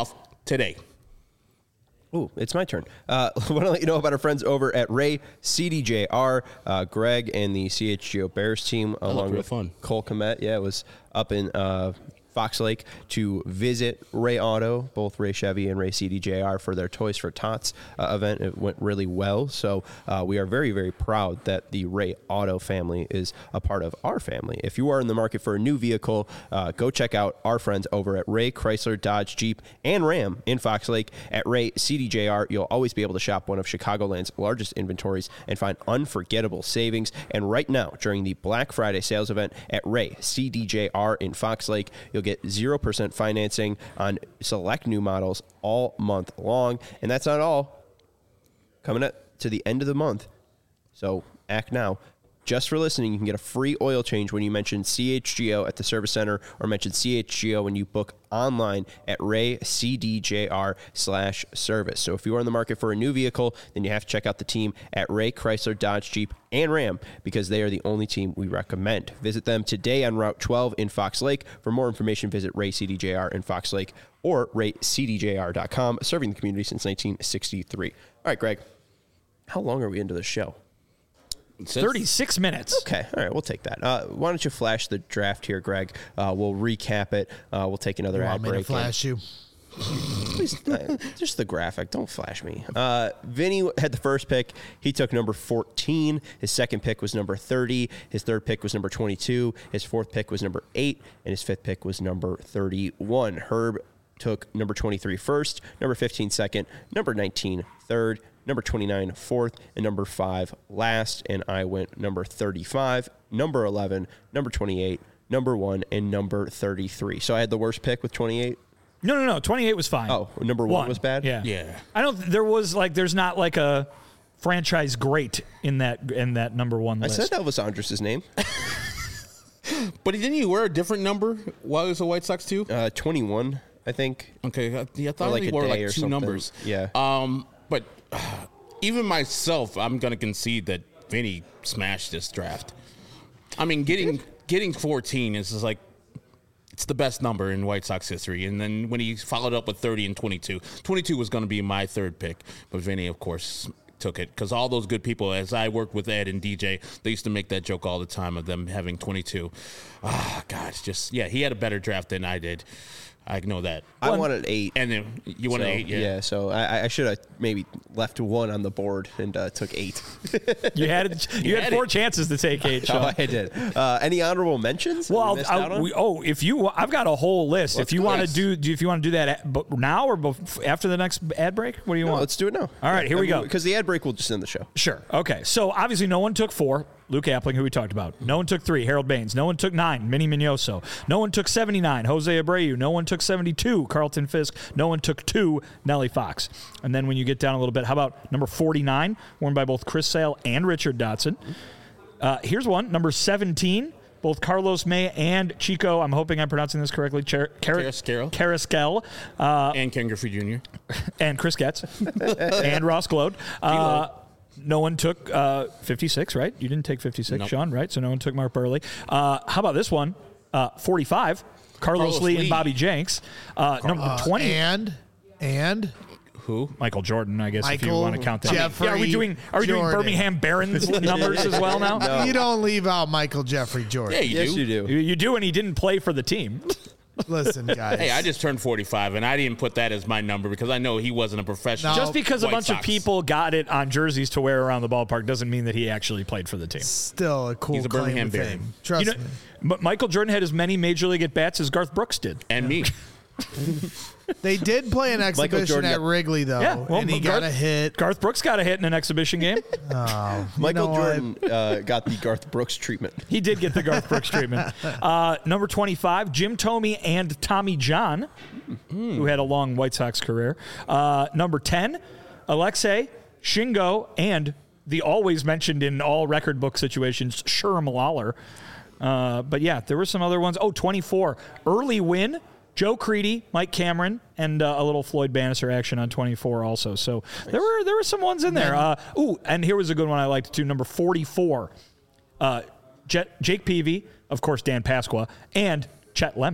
today. Ooh, it's my turn. I want to let you know about our friends over at Ray CDJR, Greg and the CHGO Bears team, along with fun. Cole Komet. Yeah, it was up in Fox Lake to visit Ray Auto, both Ray Chevy and Ray CDJR, for their Toys for Tots event. It went really well. So we are very, very proud that the Ray Auto family is a part of our family. If you are in the market for a new vehicle, go check out our friends over at Ray Chrysler, Dodge, Jeep, and Ram in Fox Lake. At Ray CDJR, you'll always be able to shop one of Chicagoland's largest inventories and find unforgettable savings. And right now, during the Black Friday sales event at Ray CDJR in Fox Lake, you'll get 0% financing on select new models all month long. And that's not all. Coming up to the end of the month, so act now. Just for listening, you can get a free oil change when you mention CHGO at the service center or mention CHGO when you book online at raycdjr/service. So if you are in the market for a new vehicle, then you have to check out the team at Ray Chrysler, Dodge, Jeep, and Ram, because they are the only team we recommend. Visit them today on Route 12 in Fox Lake. For more information, visit Ray CDJR in Fox Lake or raycdjr.com, serving the community since 1963. All right, Greg, how long are we into the show? 36 minutes. Okay, all right, we'll take that. Why don't you flash the draft here, Greg? We'll recap it. We'll take another ad Want me to break. flash you? Please, just the graphic. Don't flash me. Vinny had the first pick. He took number 14. His second pick was number 30. His third pick was number 22. His fourth pick was number 8. And his fifth pick was number 31. Herb took number 23 first, number 15 second, number 19 third, number 29 fourth, and number 5 last. And I went number 35, number 11, number 28, number 1, and number 33. So I had the worst pick with 28. No. 28 was fine. Oh, number 1 was bad? Yeah. I don't. There's not like a franchise great in that number one list. I said Elvis Andrus' name. But didn't he wear a different number while he was a White Sox too? 21, I think. Okay, I thought like he a wore day like or two something. numbers. Yeah. But even myself, I'm gonna concede that Vinny smashed this draft. I mean, getting 14 is just like, it's the best number in White Sox history. And then when he followed up with 30 and 22, 22 was going to be my third pick. But Vinny, of course, took it because all those good people, as I worked with Ed and DJ, they used to make that joke all the time of them having 22. Ah, God, he had a better draft than I did. I know that. I wanted 8. And then you wanted 8, yeah. Yeah, so I should have maybe left 1 on the board and took 8. You had 4 chances to take 8. Sean. Oh, I did. Any honorable mentions? Well, I've got a whole list. If you want to do that now or after the next ad break, what do you want? Let's do it now. All right, here we go. Because the ad break will just end the show. Sure. Okay. So obviously, no one took 4. Luke Appling, who we talked about. No one took 3, Harold Baines. No one took 9, Minnie Mignoso. No one took 79, Jose Abreu. No one took 72, Carlton Fisk. No one took 2, Nellie Fox. And then when you get down a little bit, how about number 49, worn by both Chris Sale and Richard Dotson? Here's one, number 17, both Carlos May and Chico, I'm hoping I'm pronouncing this correctly, Carrasquel. And Ken Griffey Jr. And Chris Getz. And Ross Glode. No one took 56, right? You didn't take 56, nope. Sean, right? So no one took Mark Burley. How about this one? 45, Carlos Lee and Bobby Jenks. Number 20. And who? Michael Jordan, I guess, if you want to count that. Jeffrey are we doing Birmingham Barons numbers as well now? No. You don't leave out Michael Jeffrey Jordan. Yeah, you do. You do, and he didn't play for the team. Listen, guys. Hey, I just turned 45, and I didn't put that as my number because I know he wasn't a professional. Just because White a bunch Sox. of people got it on jerseys to wear around the ballpark doesn't mean that he actually played for the team. Still a cool He's a claim Birmingham to Baron. fame. Trust me. But Michael Jordan had as many Major League at-bats as Garth Brooks did. And me. They did play an exhibition at Wrigley, though, and he got a hit. Garth Brooks got a hit in an exhibition game. Michael Jordan got the Garth Brooks treatment. He did get the Garth Brooks treatment. Number 25, Jim Thome and Tommy John, who had a long White Sox career. Number 10, Alexei, Shingo, and the always mentioned in all record book situations, Sherm Lawler. But yeah, there were some other ones. 24, Early Win, Joe Creedy, Mike Cameron, and a little Floyd Bannister action on 24 also. So nice. there were some ones in there. And here was a good one I liked too. Number 44, Jake Peavy, of course Dan Pasqua, and Chet Lemon.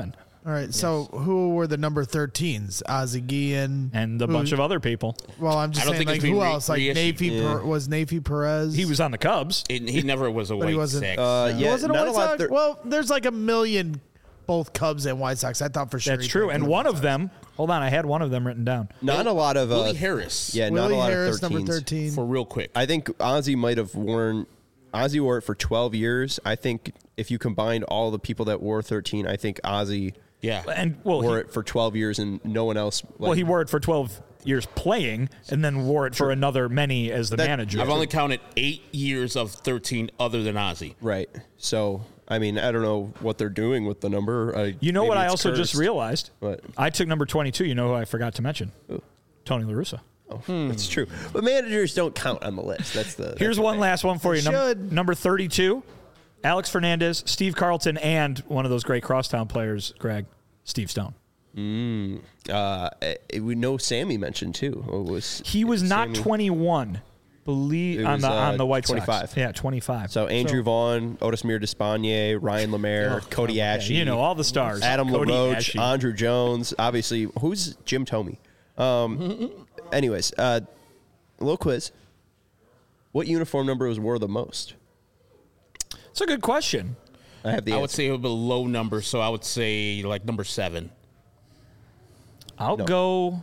All right. So who were the number 13s? Ozzie Guillen and a bunch of other people. Well, I'm just I don't saying, think like, it's who been else? Like, reissued. was Nafy Perez? He was on the Cubs. He never was a But he White wasn't- Sox. Yeah, wasn't a not White a lot. Sox? Well, there's like a million both Cubs and White Sox. I thought for sure. That's true. And one of them, hold on, I had one of them written down. Not a lot of Willie Harris. Yeah, not Willie a lot Harris, of 13s. number 13. For real quick. I think Ozzie might have worn. Ozzie wore it for 12 years. I think if you combined all the people that wore 13, I think Ozzie Yeah. And wore it for 12 years and no one else. he wore it for 12 years playing and then wore it for another many as the manager. I've only counted 8 years of 13 other than Ozzie. Right. So, I mean, I don't know what they're doing with the number. You know maybe what I it's also just cursed. realized? What? I took number 22. You know who I forgot to mention? Tony La Russa. Oh, that's true. But managers don't count on the list. That's the. Here's one last one for you. Should. Number 32, Alex Fernandez, Steve Carlton, and one of those great crosstown players, Greg, Steve Stone. We know Sammy mentioned too. He was not Sammy. 21, It on was, the White 25. Sox. Yeah, 25. So Andrew Vaughn, Otismir Despaigne, Ryan Lemaire, Cody Ashe. you know all the stars. Adam Cody LaRoche, Ashe. Andrew Jones. Obviously, who's Jim Thome? Anyways, a little quiz. What uniform number was wore the most? It's a good question. I have the I answer. would say it would be a low number, so I would say like number 7. I'll No. go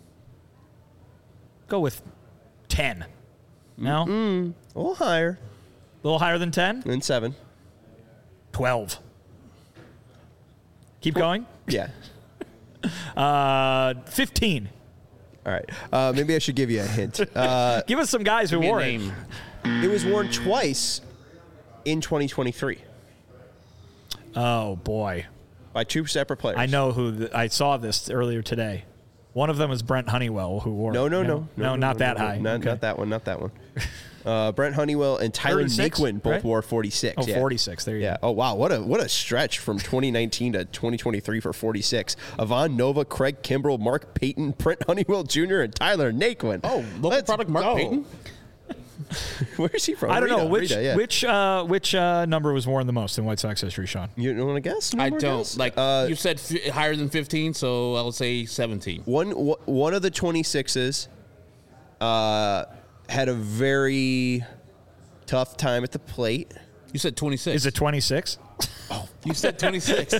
with 10. No? a little higher A little higher than 10? than 7. 12. Keep going. Yeah. 15. All right. Maybe I should give you a hint. Give us some guys who Give me a wore it. name. It was worn twice in 2023 Oh, boy. by two separate players. I know who. I saw this earlier today. One of them was Brent Honeywell, who wore No, it. no, not that high. Not Okay. that one. Not that one. Brent Honeywell and Tyler 36, Naquin both right? wore 46. Oh, yeah. 46. There you Yeah. go. Oh wow. What a stretch from 2019 to 2023 for 46. Avon Nova, Craig Kimbrell, Mark Payton, Brent Honeywell Jr., and Tyler Naquin. Oh, local Let's product Mark go. Payton? Where's he from? I don't know Rita, yeah. which number was worn the most in White Sox history, Sean. You don't want to guess? I More don't. guess? Like, you said higher than 15, so I'll say 17. One of the 26s had a very tough time at the plate. You said 26. Is it 26? You said 26.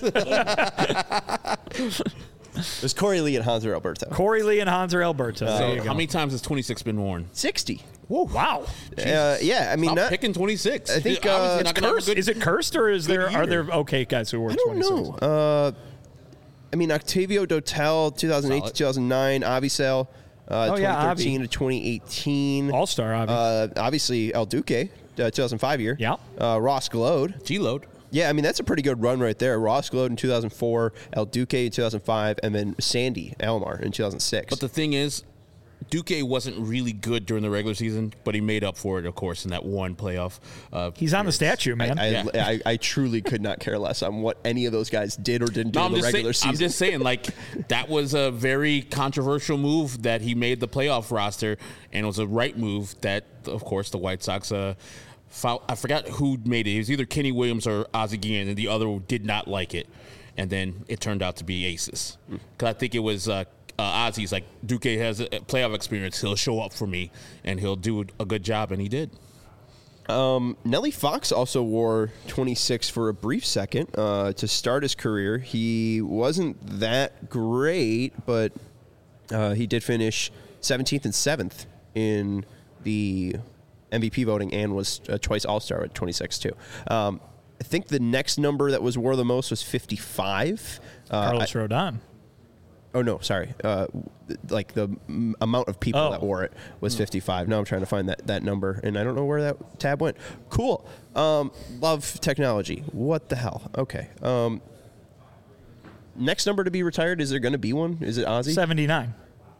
It was Corey Lee and Hanser Alberto. Corey Lee and Hanser Alberto. There So you go. how many times has 26 been worn? 60. Whoa, wow. Yeah, I mean, Stop not, picking 26. I think, Obviously it's not gonna have a good- Is it cursed or is there are year. there okay guys who wore I don't 26? know. I mean, Octavio Dotel, 2008 to Solid. 2009, Avisel, Oh, yeah, 2013 Avi. to 2018. All-star, obviously. Obviously, El Duque, 2005 year. Yeah. Ross Glode. G-load. Yeah, I mean, that's a pretty good run right there. Ross Glode in 2004, El Duque in 2005, and then Sandy Alomar in 2006. But the thing is, Duque wasn't really good during the regular season, but he made up for it, of course, in that one playoff. He's on the statue, man. I truly could not care less on what any of those guys did or didn't do No, in the regular season. I'm just saying, like, that was a very controversial move that he made the playoff roster, and it was a right move that, of course, the White Sox foul. I forgot who made it. It was either Kenny Williams or Ozzie Guillen, and the other did not like it. And then it turned out to be aces. Because I think it was Ozzie's like, Duque has a playoff experience. He'll show up for me, and he'll do a good job, and he did. Nelly Fox also wore 26 for a brief second to start his career. He wasn't that great, but he did finish 17th and 7th in the MVP voting and was a twice All-Star at 26 too. I think the next number that was wore the most was 55. Carlos Rodon. Oh no, sorry. Like the amount of people that wore it was 55. Now I'm trying to find that number, and I don't know where that tab went. Cool. Love technology. What the hell? Okay. Next number to be retired. Is there going to be one? Is it Ozzie? 79.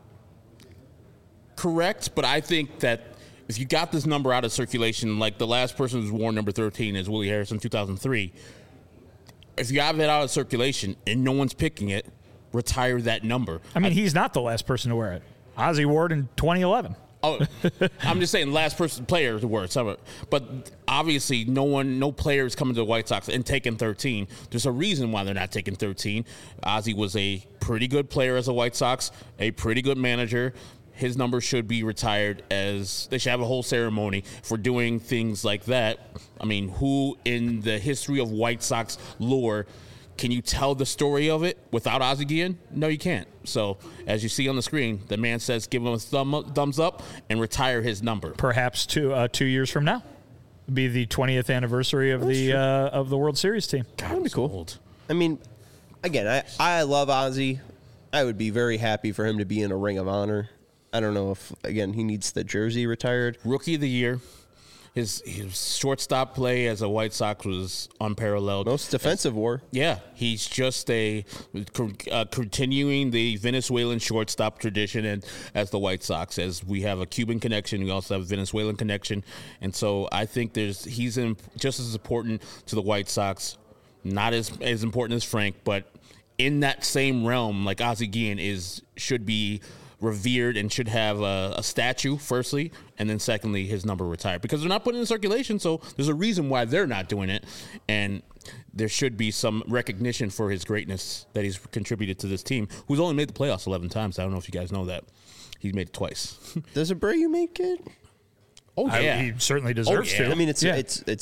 Correct, but I think that if you got this number out of circulation, like the last person who's worn number 13 is Willie Harris in 2003, if you have it out of circulation and no one's picking it, retire that number. I mean, he's not the last person to wear it. Ozzie wore it in 2011. Oh, I'm just saying last person player to word. But obviously, no player is coming to the White Sox and taking 13. There's a reason why they're not taking 13. Ozzie was a pretty good player as a White Sox, a pretty good manager. His number should be retired. As they should have a whole ceremony for doing things like that. I mean, who in the history of White Sox lore can you tell the story of it without Ozzie Guillen? No, you can't. So, as you see on the screen, the man says give him a thumbs up and retire his number. Perhaps 2 years from now would be the 20th anniversary of the World Series team. God, That'd be cool. Old. I mean, again, I love Ozzie. I would be very happy for him to be in a Ring of Honor. I don't know if, again, he needs the jersey retired. Rookie of the year. His shortstop play as a White Sox was unparalleled. Most defensive war. Yeah, he's just continuing the Venezuelan shortstop tradition, and as the White Sox, as we have a Cuban connection, we also have a Venezuelan connection, and so I think he's just as important to the White Sox, not as important as Frank, but in that same realm, like Ozzie Guillen should be revered and should have a statue, firstly, and then secondly, his number retired, because they're not putting it in circulation. So there's a reason why they're not doing it, and there should be some recognition for his greatness that he's contributed to this team, who's only made the playoffs 11 times. I don't know if you guys know that. He's made it twice. Does Abreu make it? Oh yeah, He certainly deserves yeah. to. I mean, it's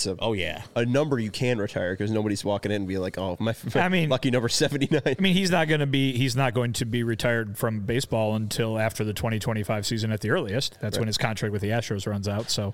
a number you can retire, because nobody's walking in and be like, oh, my lucky number 79. I mean, he's not going to be retired from baseball until after the 2025 season at the earliest. That's when his contract with the Astros runs out. So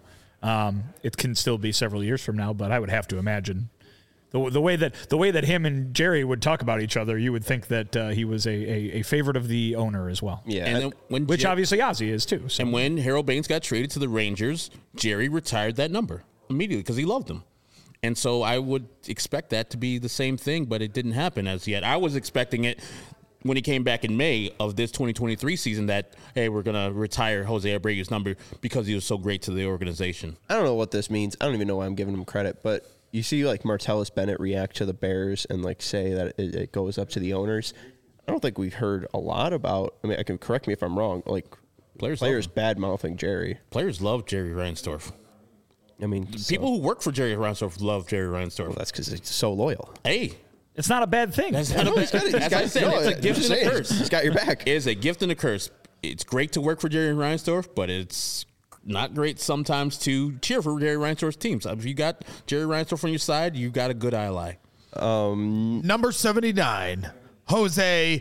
it can still be several years from now, but I would have to imagine the way that him and Jerry would talk about each other, you would think that he was a favorite of the owner as well. Yeah. And then which obviously Ozzie is too. So. And when Harold Baines got traded to the Rangers, Jerry retired that number immediately because he loved him. And so I would expect that to be the same thing, but it didn't happen as yet. I was expecting it when he came back in May of this 2023 season that, hey, we're going to retire Jose Abreu's number because he was so great to the organization. I don't know what this means. I don't even know why I'm giving him credit, but you see like Martellus Bennett react to the Bears and like say that it goes up to the owners. I don't think we've heard a lot about, I mean, I can correct me if I'm wrong, like players bad-mouthing Jerry. Players love Jerry Reinsdorf. I mean, people who work for Jerry Reinsdorf love Jerry Reinsdorf. Well, that's because he's so loyal. Hey. It's not a bad thing. That's not a bad thing. As I said, it's a gift and a curse. He's got your back. It is a gift and a curse. It's great to work for Jerry Reinsdorf, but it's not great sometimes to cheer for Jerry Reinsdorf's teams. If you got Jerry Reinsdorf on your side, you got a good ally. Number 79, Jose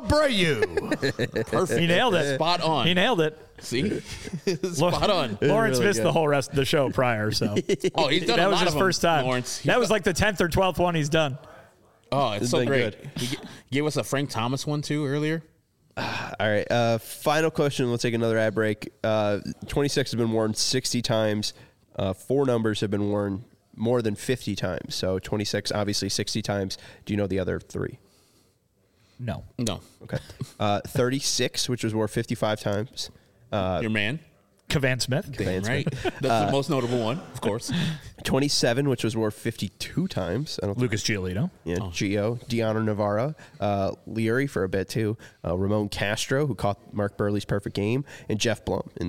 Abreu. Perfect. He nailed it. Spot on. He nailed it. See? Spot on. Lawrence really missed good. the whole rest of the show prior, so Oh, he's done that a was lot his of first them, time. Lawrence. That was like the 10th or 12th one he's done. Oh, it's so been great. good. He gave us a Frank Thomas one, too, earlier. All right. Final question. We'll take another ad break. 26 has been worn 60 times. 4 numbers have been worn more than 50 times. So 26, obviously 60 times. Do you know the other 3? No. No. Okay. 36, which was worn 55 times. Your man. Cavan Smith. Damn right. That's the most notable one, of course. 27, which was worn 52 times. I don't think. Lucas Giolito. Yeah, Gio, Deanna Navarro, Leary for a bit too, Ramon Castro, who caught Mark Burley's perfect game, and Jeff Blum in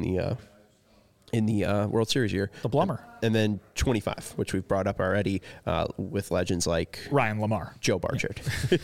the World Series year. The Blummer. And then 25, which we've brought up already with legends like Ryan Lamar. Joe Barchard.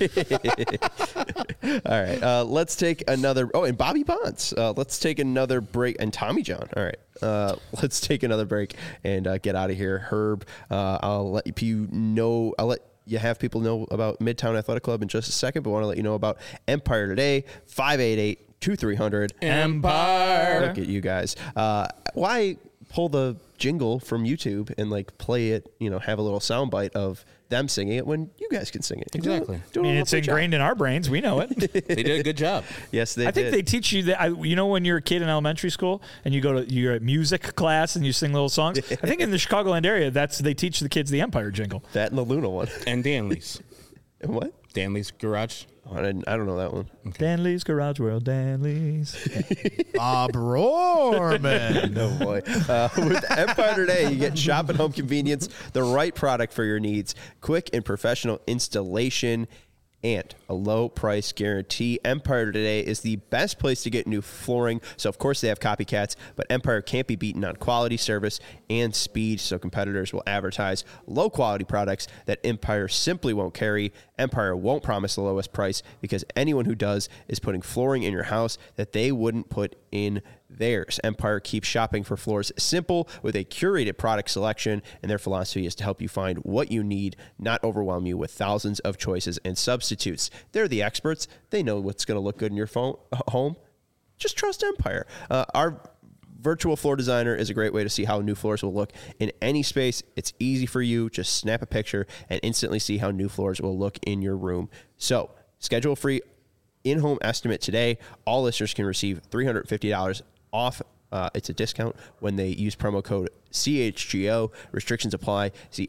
All right, let's take another. Oh, and Bobby Bonds. Let's take another break. And Tommy John. All right, let's take another break and get out of here. Herb, I'll let you know. I'll let you have people know about Midtown Athletic Club in just a second, but I want to let you know about Empire Today, 588-2300. Empire. Look at you guys. Why pull the jingle from YouTube and like play it, have a little soundbite of them singing it when you guys can sing it? Exactly. I mean, it's ingrained in our brains. We know it. They did a good job. Yes, they I think did. they teach you that. When you're a kid in elementary school and you're at music class and you sing little songs. I think in the Chicagoland area, they teach the kids the Empire jingle. That and the Luna one. And Danley's. What? Danley's Garage. Oh, I don't know that one. Danley's Garage World, Danley's. Bob Rohrman. Oh boy. With Empire Today, you get shop and home convenience, the right product for your needs, quick and professional installation, and a low price guarantee. Empire Today is the best place to get new flooring. So, of course, they have copycats, but Empire can't be beaten on quality, service, and speed. So competitors will advertise low-quality products that Empire simply won't carry. Empire won't promise the lowest price because anyone who does is putting flooring in your house that they wouldn't put in theirs. Empire keeps shopping for floors simple with a curated product selection, and their philosophy is to help you find what you need, not overwhelm you with thousands of choices and substitutes. They're the experts. They know what's going to look good in your home. Just trust Empire. Our virtual floor designer is a great way to see how new floors will look in any space. It's easy for you. Just snap a picture and instantly see how new floors will look in your room. So schedule a free in-home estimate today. All listeners can receive $350 off. It's a discount when they use promo code CHGO. Restrictions apply. See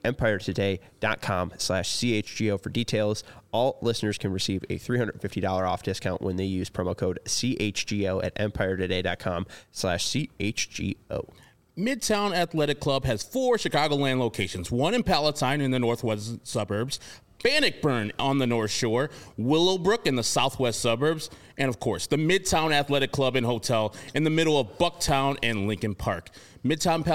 EmpireToday.com/CHGO for details. All listeners can receive a $350 off discount when they use promo code CHGO at EmpireToday.com/CHGO. Midtown Athletic Club has 4 Chicagoland locations, one in Palatine in the northwest suburbs, Bannockburn on the North Shore, Willowbrook in the southwest suburbs, and of course, the Midtown Athletic Club and Hotel in the middle of Bucktown and Lincoln Park. Midtown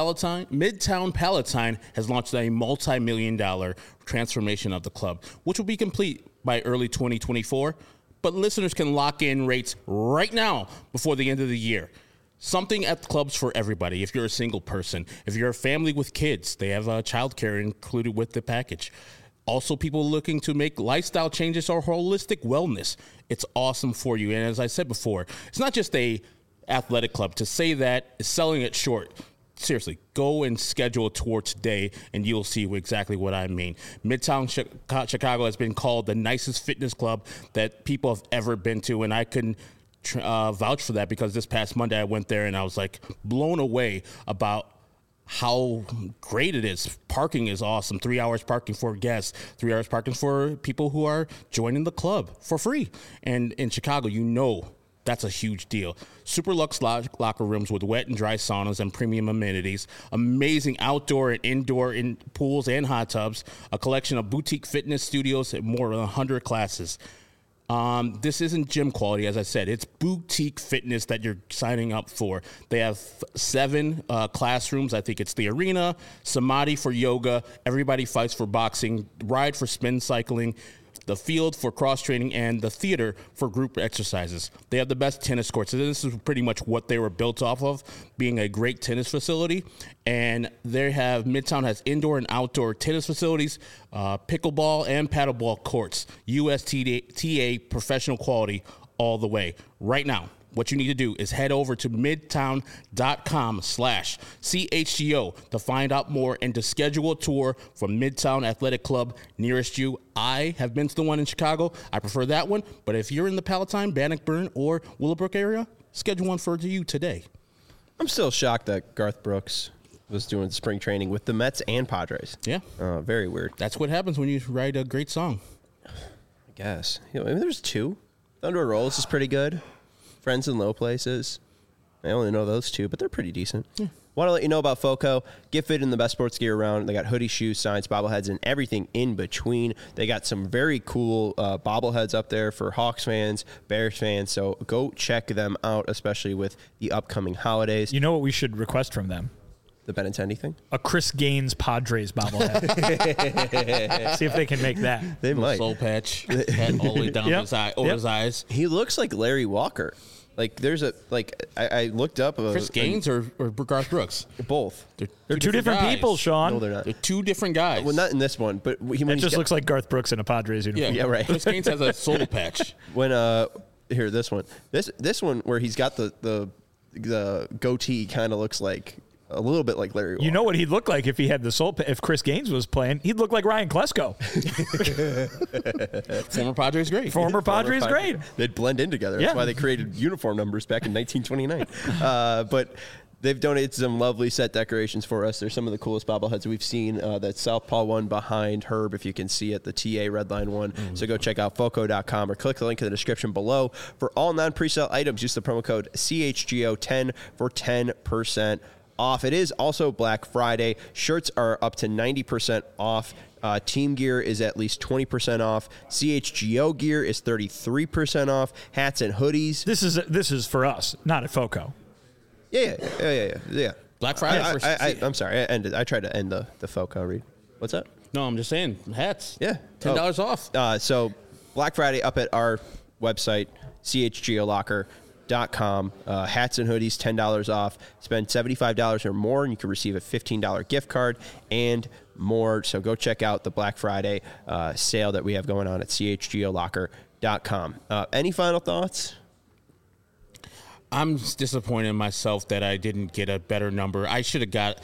Palatine has launched a multi-million-dollar transformation of the club, which will be complete by early 2024. But listeners can lock in rates right now before the end of the year. Something at the clubs for everybody. If you're a single person, if you're a family with kids, they have childcare included with the package. Also, people looking to make lifestyle changes or holistic wellness. It's awesome for you. And as I said before, it's not just a athletic club. To say that is selling it short. Seriously, go and schedule a tour today, and you'll see exactly what I mean. Midtown Chicago has been called the nicest fitness club that people have ever been to, and I can vouch for that because this past Monday I went there and I was like blown away about how great it is. Parking is awesome. 3 hours parking for guests, 3 hours parking for people who are joining the club for free. And in Chicago, you know that's a huge deal. Super luxe locker rooms with wet and dry saunas and premium amenities, amazing outdoor and indoor pools and hot tubs, a collection of boutique fitness studios and more than 100 classes. This isn't gym quality, as I said. It's boutique fitness that you're signing up for. They have 7 classrooms. I think it's the arena, Samadhi for yoga, Everybody Fights for boxing, Ride for spin cycling, the field for cross-training, and the theater for group exercises. They have the best tennis courts. So this is pretty much what they were built off of, being a great tennis facility. And they have, Midtown has indoor and outdoor tennis facilities, pickleball and paddleball courts, USTA professional quality all the way. Right now, what you need to do is head over to midtown.com/CHGO to find out more and to schedule a tour from Midtown Athletic Club nearest you. I have been to the one in Chicago. I prefer that one. But if you're in the Palatine, Bannockburn, or Willowbrook area, schedule one for you today. I'm still shocked that Garth Brooks was doing spring training with the Mets and Padres. Yeah. Very weird. That's what happens when you write a great song. I guess. Maybe there's 2. Thunder Rolls is pretty good. Friends in Low Places. I only know those 2, but they're pretty decent. Yeah. Want to let you know about FOCO. Get fit in the best sports gear around. They got hoodies, shoes, signs, bobbleheads, and everything in between. They got some very cool bobbleheads up there for Hawks fans, Bears fans. So go check them out, especially with the upcoming holidays. You know what we should request from them? The Benintendi thing? A Chris Gaines Padres bobblehead. See if they can make that. They might. Soul patch all the way down his eyes. He looks like Larry Walker. Like there's I looked up Chris Gaines or Garth Brooks. Both. They're two different people, Sean. No, they're not. They're 2 different guys. Well, not in this one, but it just looks like Garth Brooks in a Padres uniform. Yeah, right. Chris Gaines has a soul patch. When here this one where he's got the goatee kind of looks like a little bit like Larry Walker. You know what he'd look like if he had the soul? If Chris Gaines was playing, he'd look like Ryan Klesko. Former Padres great. Former Padres great. They'd blend in together. That's why they created uniform numbers back in 1929. But they've donated some lovely set decorations for us. They're some of the coolest bobbleheads we've seen. That Southpaw one behind Herb, if you can see it, the TA Redline one. So go check out FOCO.com or click the link in the description below. For all non-presale items, use the promo code CHGO10 for 10% off. It is also Black Friday. Shirts are up to 90% off. Team gear is at least 20% off. CHGO gear is 33% off. Hats and hoodies. This is for us, not at FOCO. Yeah. Black Friday. I'm sorry. I tried to end the FOCO read. What's that? No, I'm just saying hats. Yeah. $10 off. So Black Friday up at our website, chgolocker.com. Hats and hoodies, $10 off. Spend $75 or more, and you can receive a $15 gift card and more. So go check out the Black Friday sale that we have going on at chgolocker.com. Any final thoughts? I'm disappointed in myself that I didn't get a better number. I should have got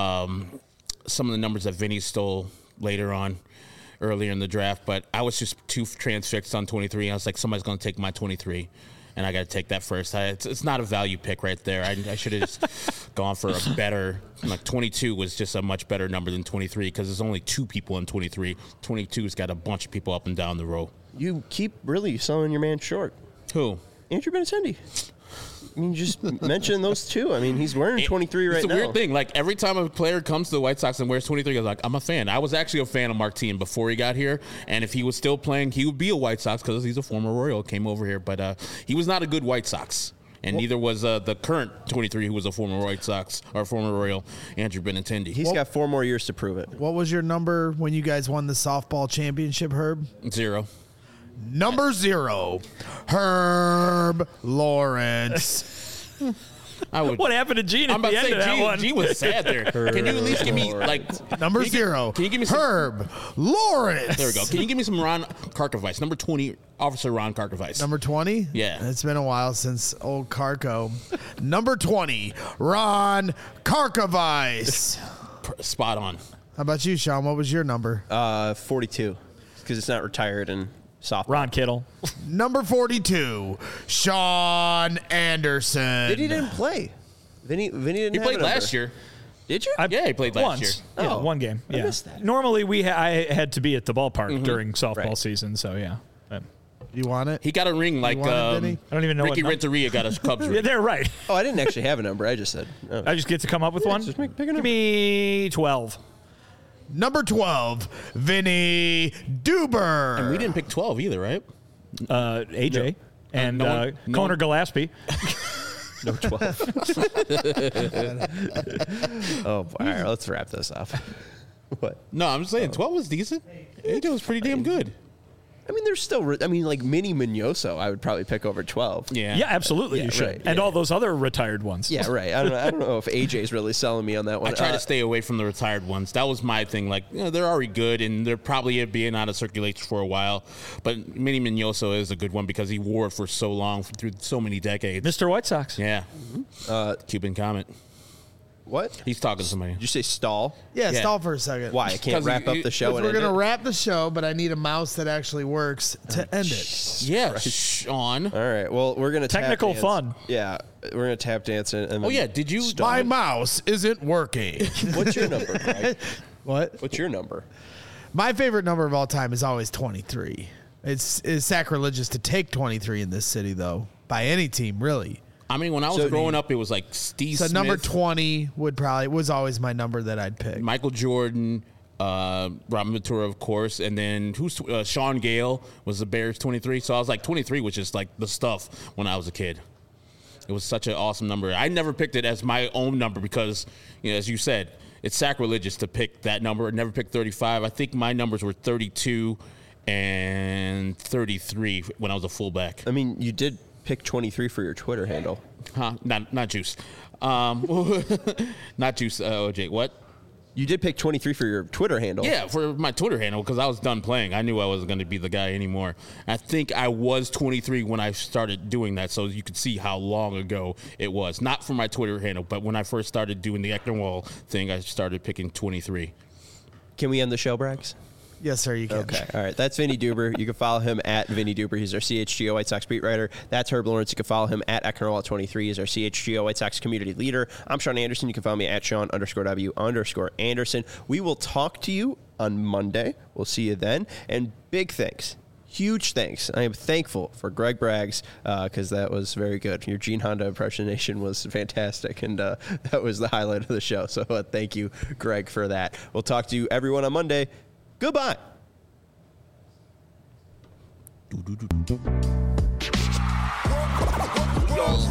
some of the numbers that Vinny stole later on, earlier in the draft, but I was just too transfixed on 23. I was like, somebody's going to take my 23, and I got to take that first. It's not a value pick right there. I should have just gone for a better, like 22 was just a much better number than 23 because there's only 2 people in 23. 22's got a bunch of people up and down the row. You keep really selling your man short. Who? Andrew Benintendi. I mean, you just mentioned those two. I mean, he's wearing 23 right now. It's a weird thing. Like, every time a player comes to the White Sox and wears 23, I was like, I'm a fan. I was actually a fan of Martin before he got here. And if he was still playing, he would be a White Sox because he's a former Royal, came over here. But he was not a good White Sox. And neither was the current 23 who was a former White Sox or former Royal, Andrew Benintendi. He's got 4 more years to prove it. What was your number when you guys won the softball championship, Herb? 0. Number 0, Herb Lawrence. What happened to Gene I'm at about the to end say, of that Gene, one? Gene was sad there. Can you at least give me, like... Number 0, can you give me some... Herb Lawrence. There we go. Can you give me some Ron Karkovice? Number 20, Officer Ron Karkovice. Number 20? Yeah. It's been a while since old Karko. Number 20, Ron Karkovice. Spot on. How about you, Sean? What was your number? 42, because it's not retired and softball. Ron Kittle. Number 42, Sean Anderson. Vinny didn't play. Vinny didn't He have played a number. last year. Did you? Yeah, he played last once. year. Yeah, Oh. one game. I Yeah. missed that. Normally, I had to be at the ballpark during softball Right. season, so yeah. You want it? He got a ring like want it, Vinny? I don't even know Ricky what Renteria got a Cubs Yeah, ring. they're right. Oh, I didn't actually have a number. I just said. Oh. I just get to come up with one. just pick a Give number. me 12. Number 12, Vinny Duber. And we didn't pick 12 either, right? AJ and no one- no Conor one- Gillespie. No 12. Oh, all right. Let's wrap this up. What? No, I'm just saying 12 was decent. AJ was pretty damn good. I mean, there's still. I mean, like Mini Mignoso, I would probably pick over 12. Yeah. Yeah, absolutely, Yeah, you should. right. And Yeah. all those other retired ones. Yeah, right. I don't know if AJ's really selling me on that one. I try to stay away from the retired ones. That was my thing. Like, they're already good, and they're probably being out of circulation for a while. But Minnie Mignoso is a good one because he wore it for so long, through so many decades. Mr. White Sox. Yeah. Cuban comment. What? He's talking to somebody. Did you say stall? Yeah, Yeah. stall for a second. Why? I can't 'Cause wrap you- up the show and We're end going to it? wrap the show, but I need a mouse that actually works to end it. Yeah, Sean. All right. Well, we're going to Technical tap dance. fun. Yeah. We're going to tap dance. And Oh, yeah. Did you... My mouse isn't working. What's your number, Greg? What? What's your number? My favorite number of all time is always 23. It's sacrilegious to take 23 in this city, though, by any team, really. I mean, when I was So growing up, it was like Steve So Smith, number 20 was always my number that I'd pick. Michael Jordan, Robin Ventura, of course, and then Sean Gale was the Bears 23. So I was like, 23 was just like the stuff when I was a kid. It was such an awesome number. I never picked it as my own number because, as you said, it's sacrilegious to pick that number. I never picked 35. I think my numbers were 32 and 33 when I was a fullback. I mean, you did pick 23 for your Twitter handle. Huh? Not Juice. Not Juice, OJ. What? You did pick 23 for your Twitter handle. Yeah, for my Twitter handle because I was done playing. I knew I wasn't going to be the guy anymore. I think I was 23 when I started doing that, so you could see how long ago it was. Not for my Twitter handle, but when I first started doing the Ecknerwall thing, I started picking 23. Can we end the show, Braggs? Yes, sir, you can. Okay. All right. That's Vinny Duber. You can follow him at Vinny Duber. He's our CHGO White Sox beat writer. That's Herb Lawrence. You can follow him at Ecknerwall23. He's our CHGO White Sox community leader. I'm Sean Anderson. You can follow me at Sean_W_Anderson. We will talk to you on Monday. We'll see you then. And big thanks, huge thanks. I am thankful for Greg Braggs because that was very good. Your Gene Honda impersonation was fantastic, and that was the highlight of the show. So thank you, Greg, for that. We'll talk to you everyone on Monday. Goodbye. Y'all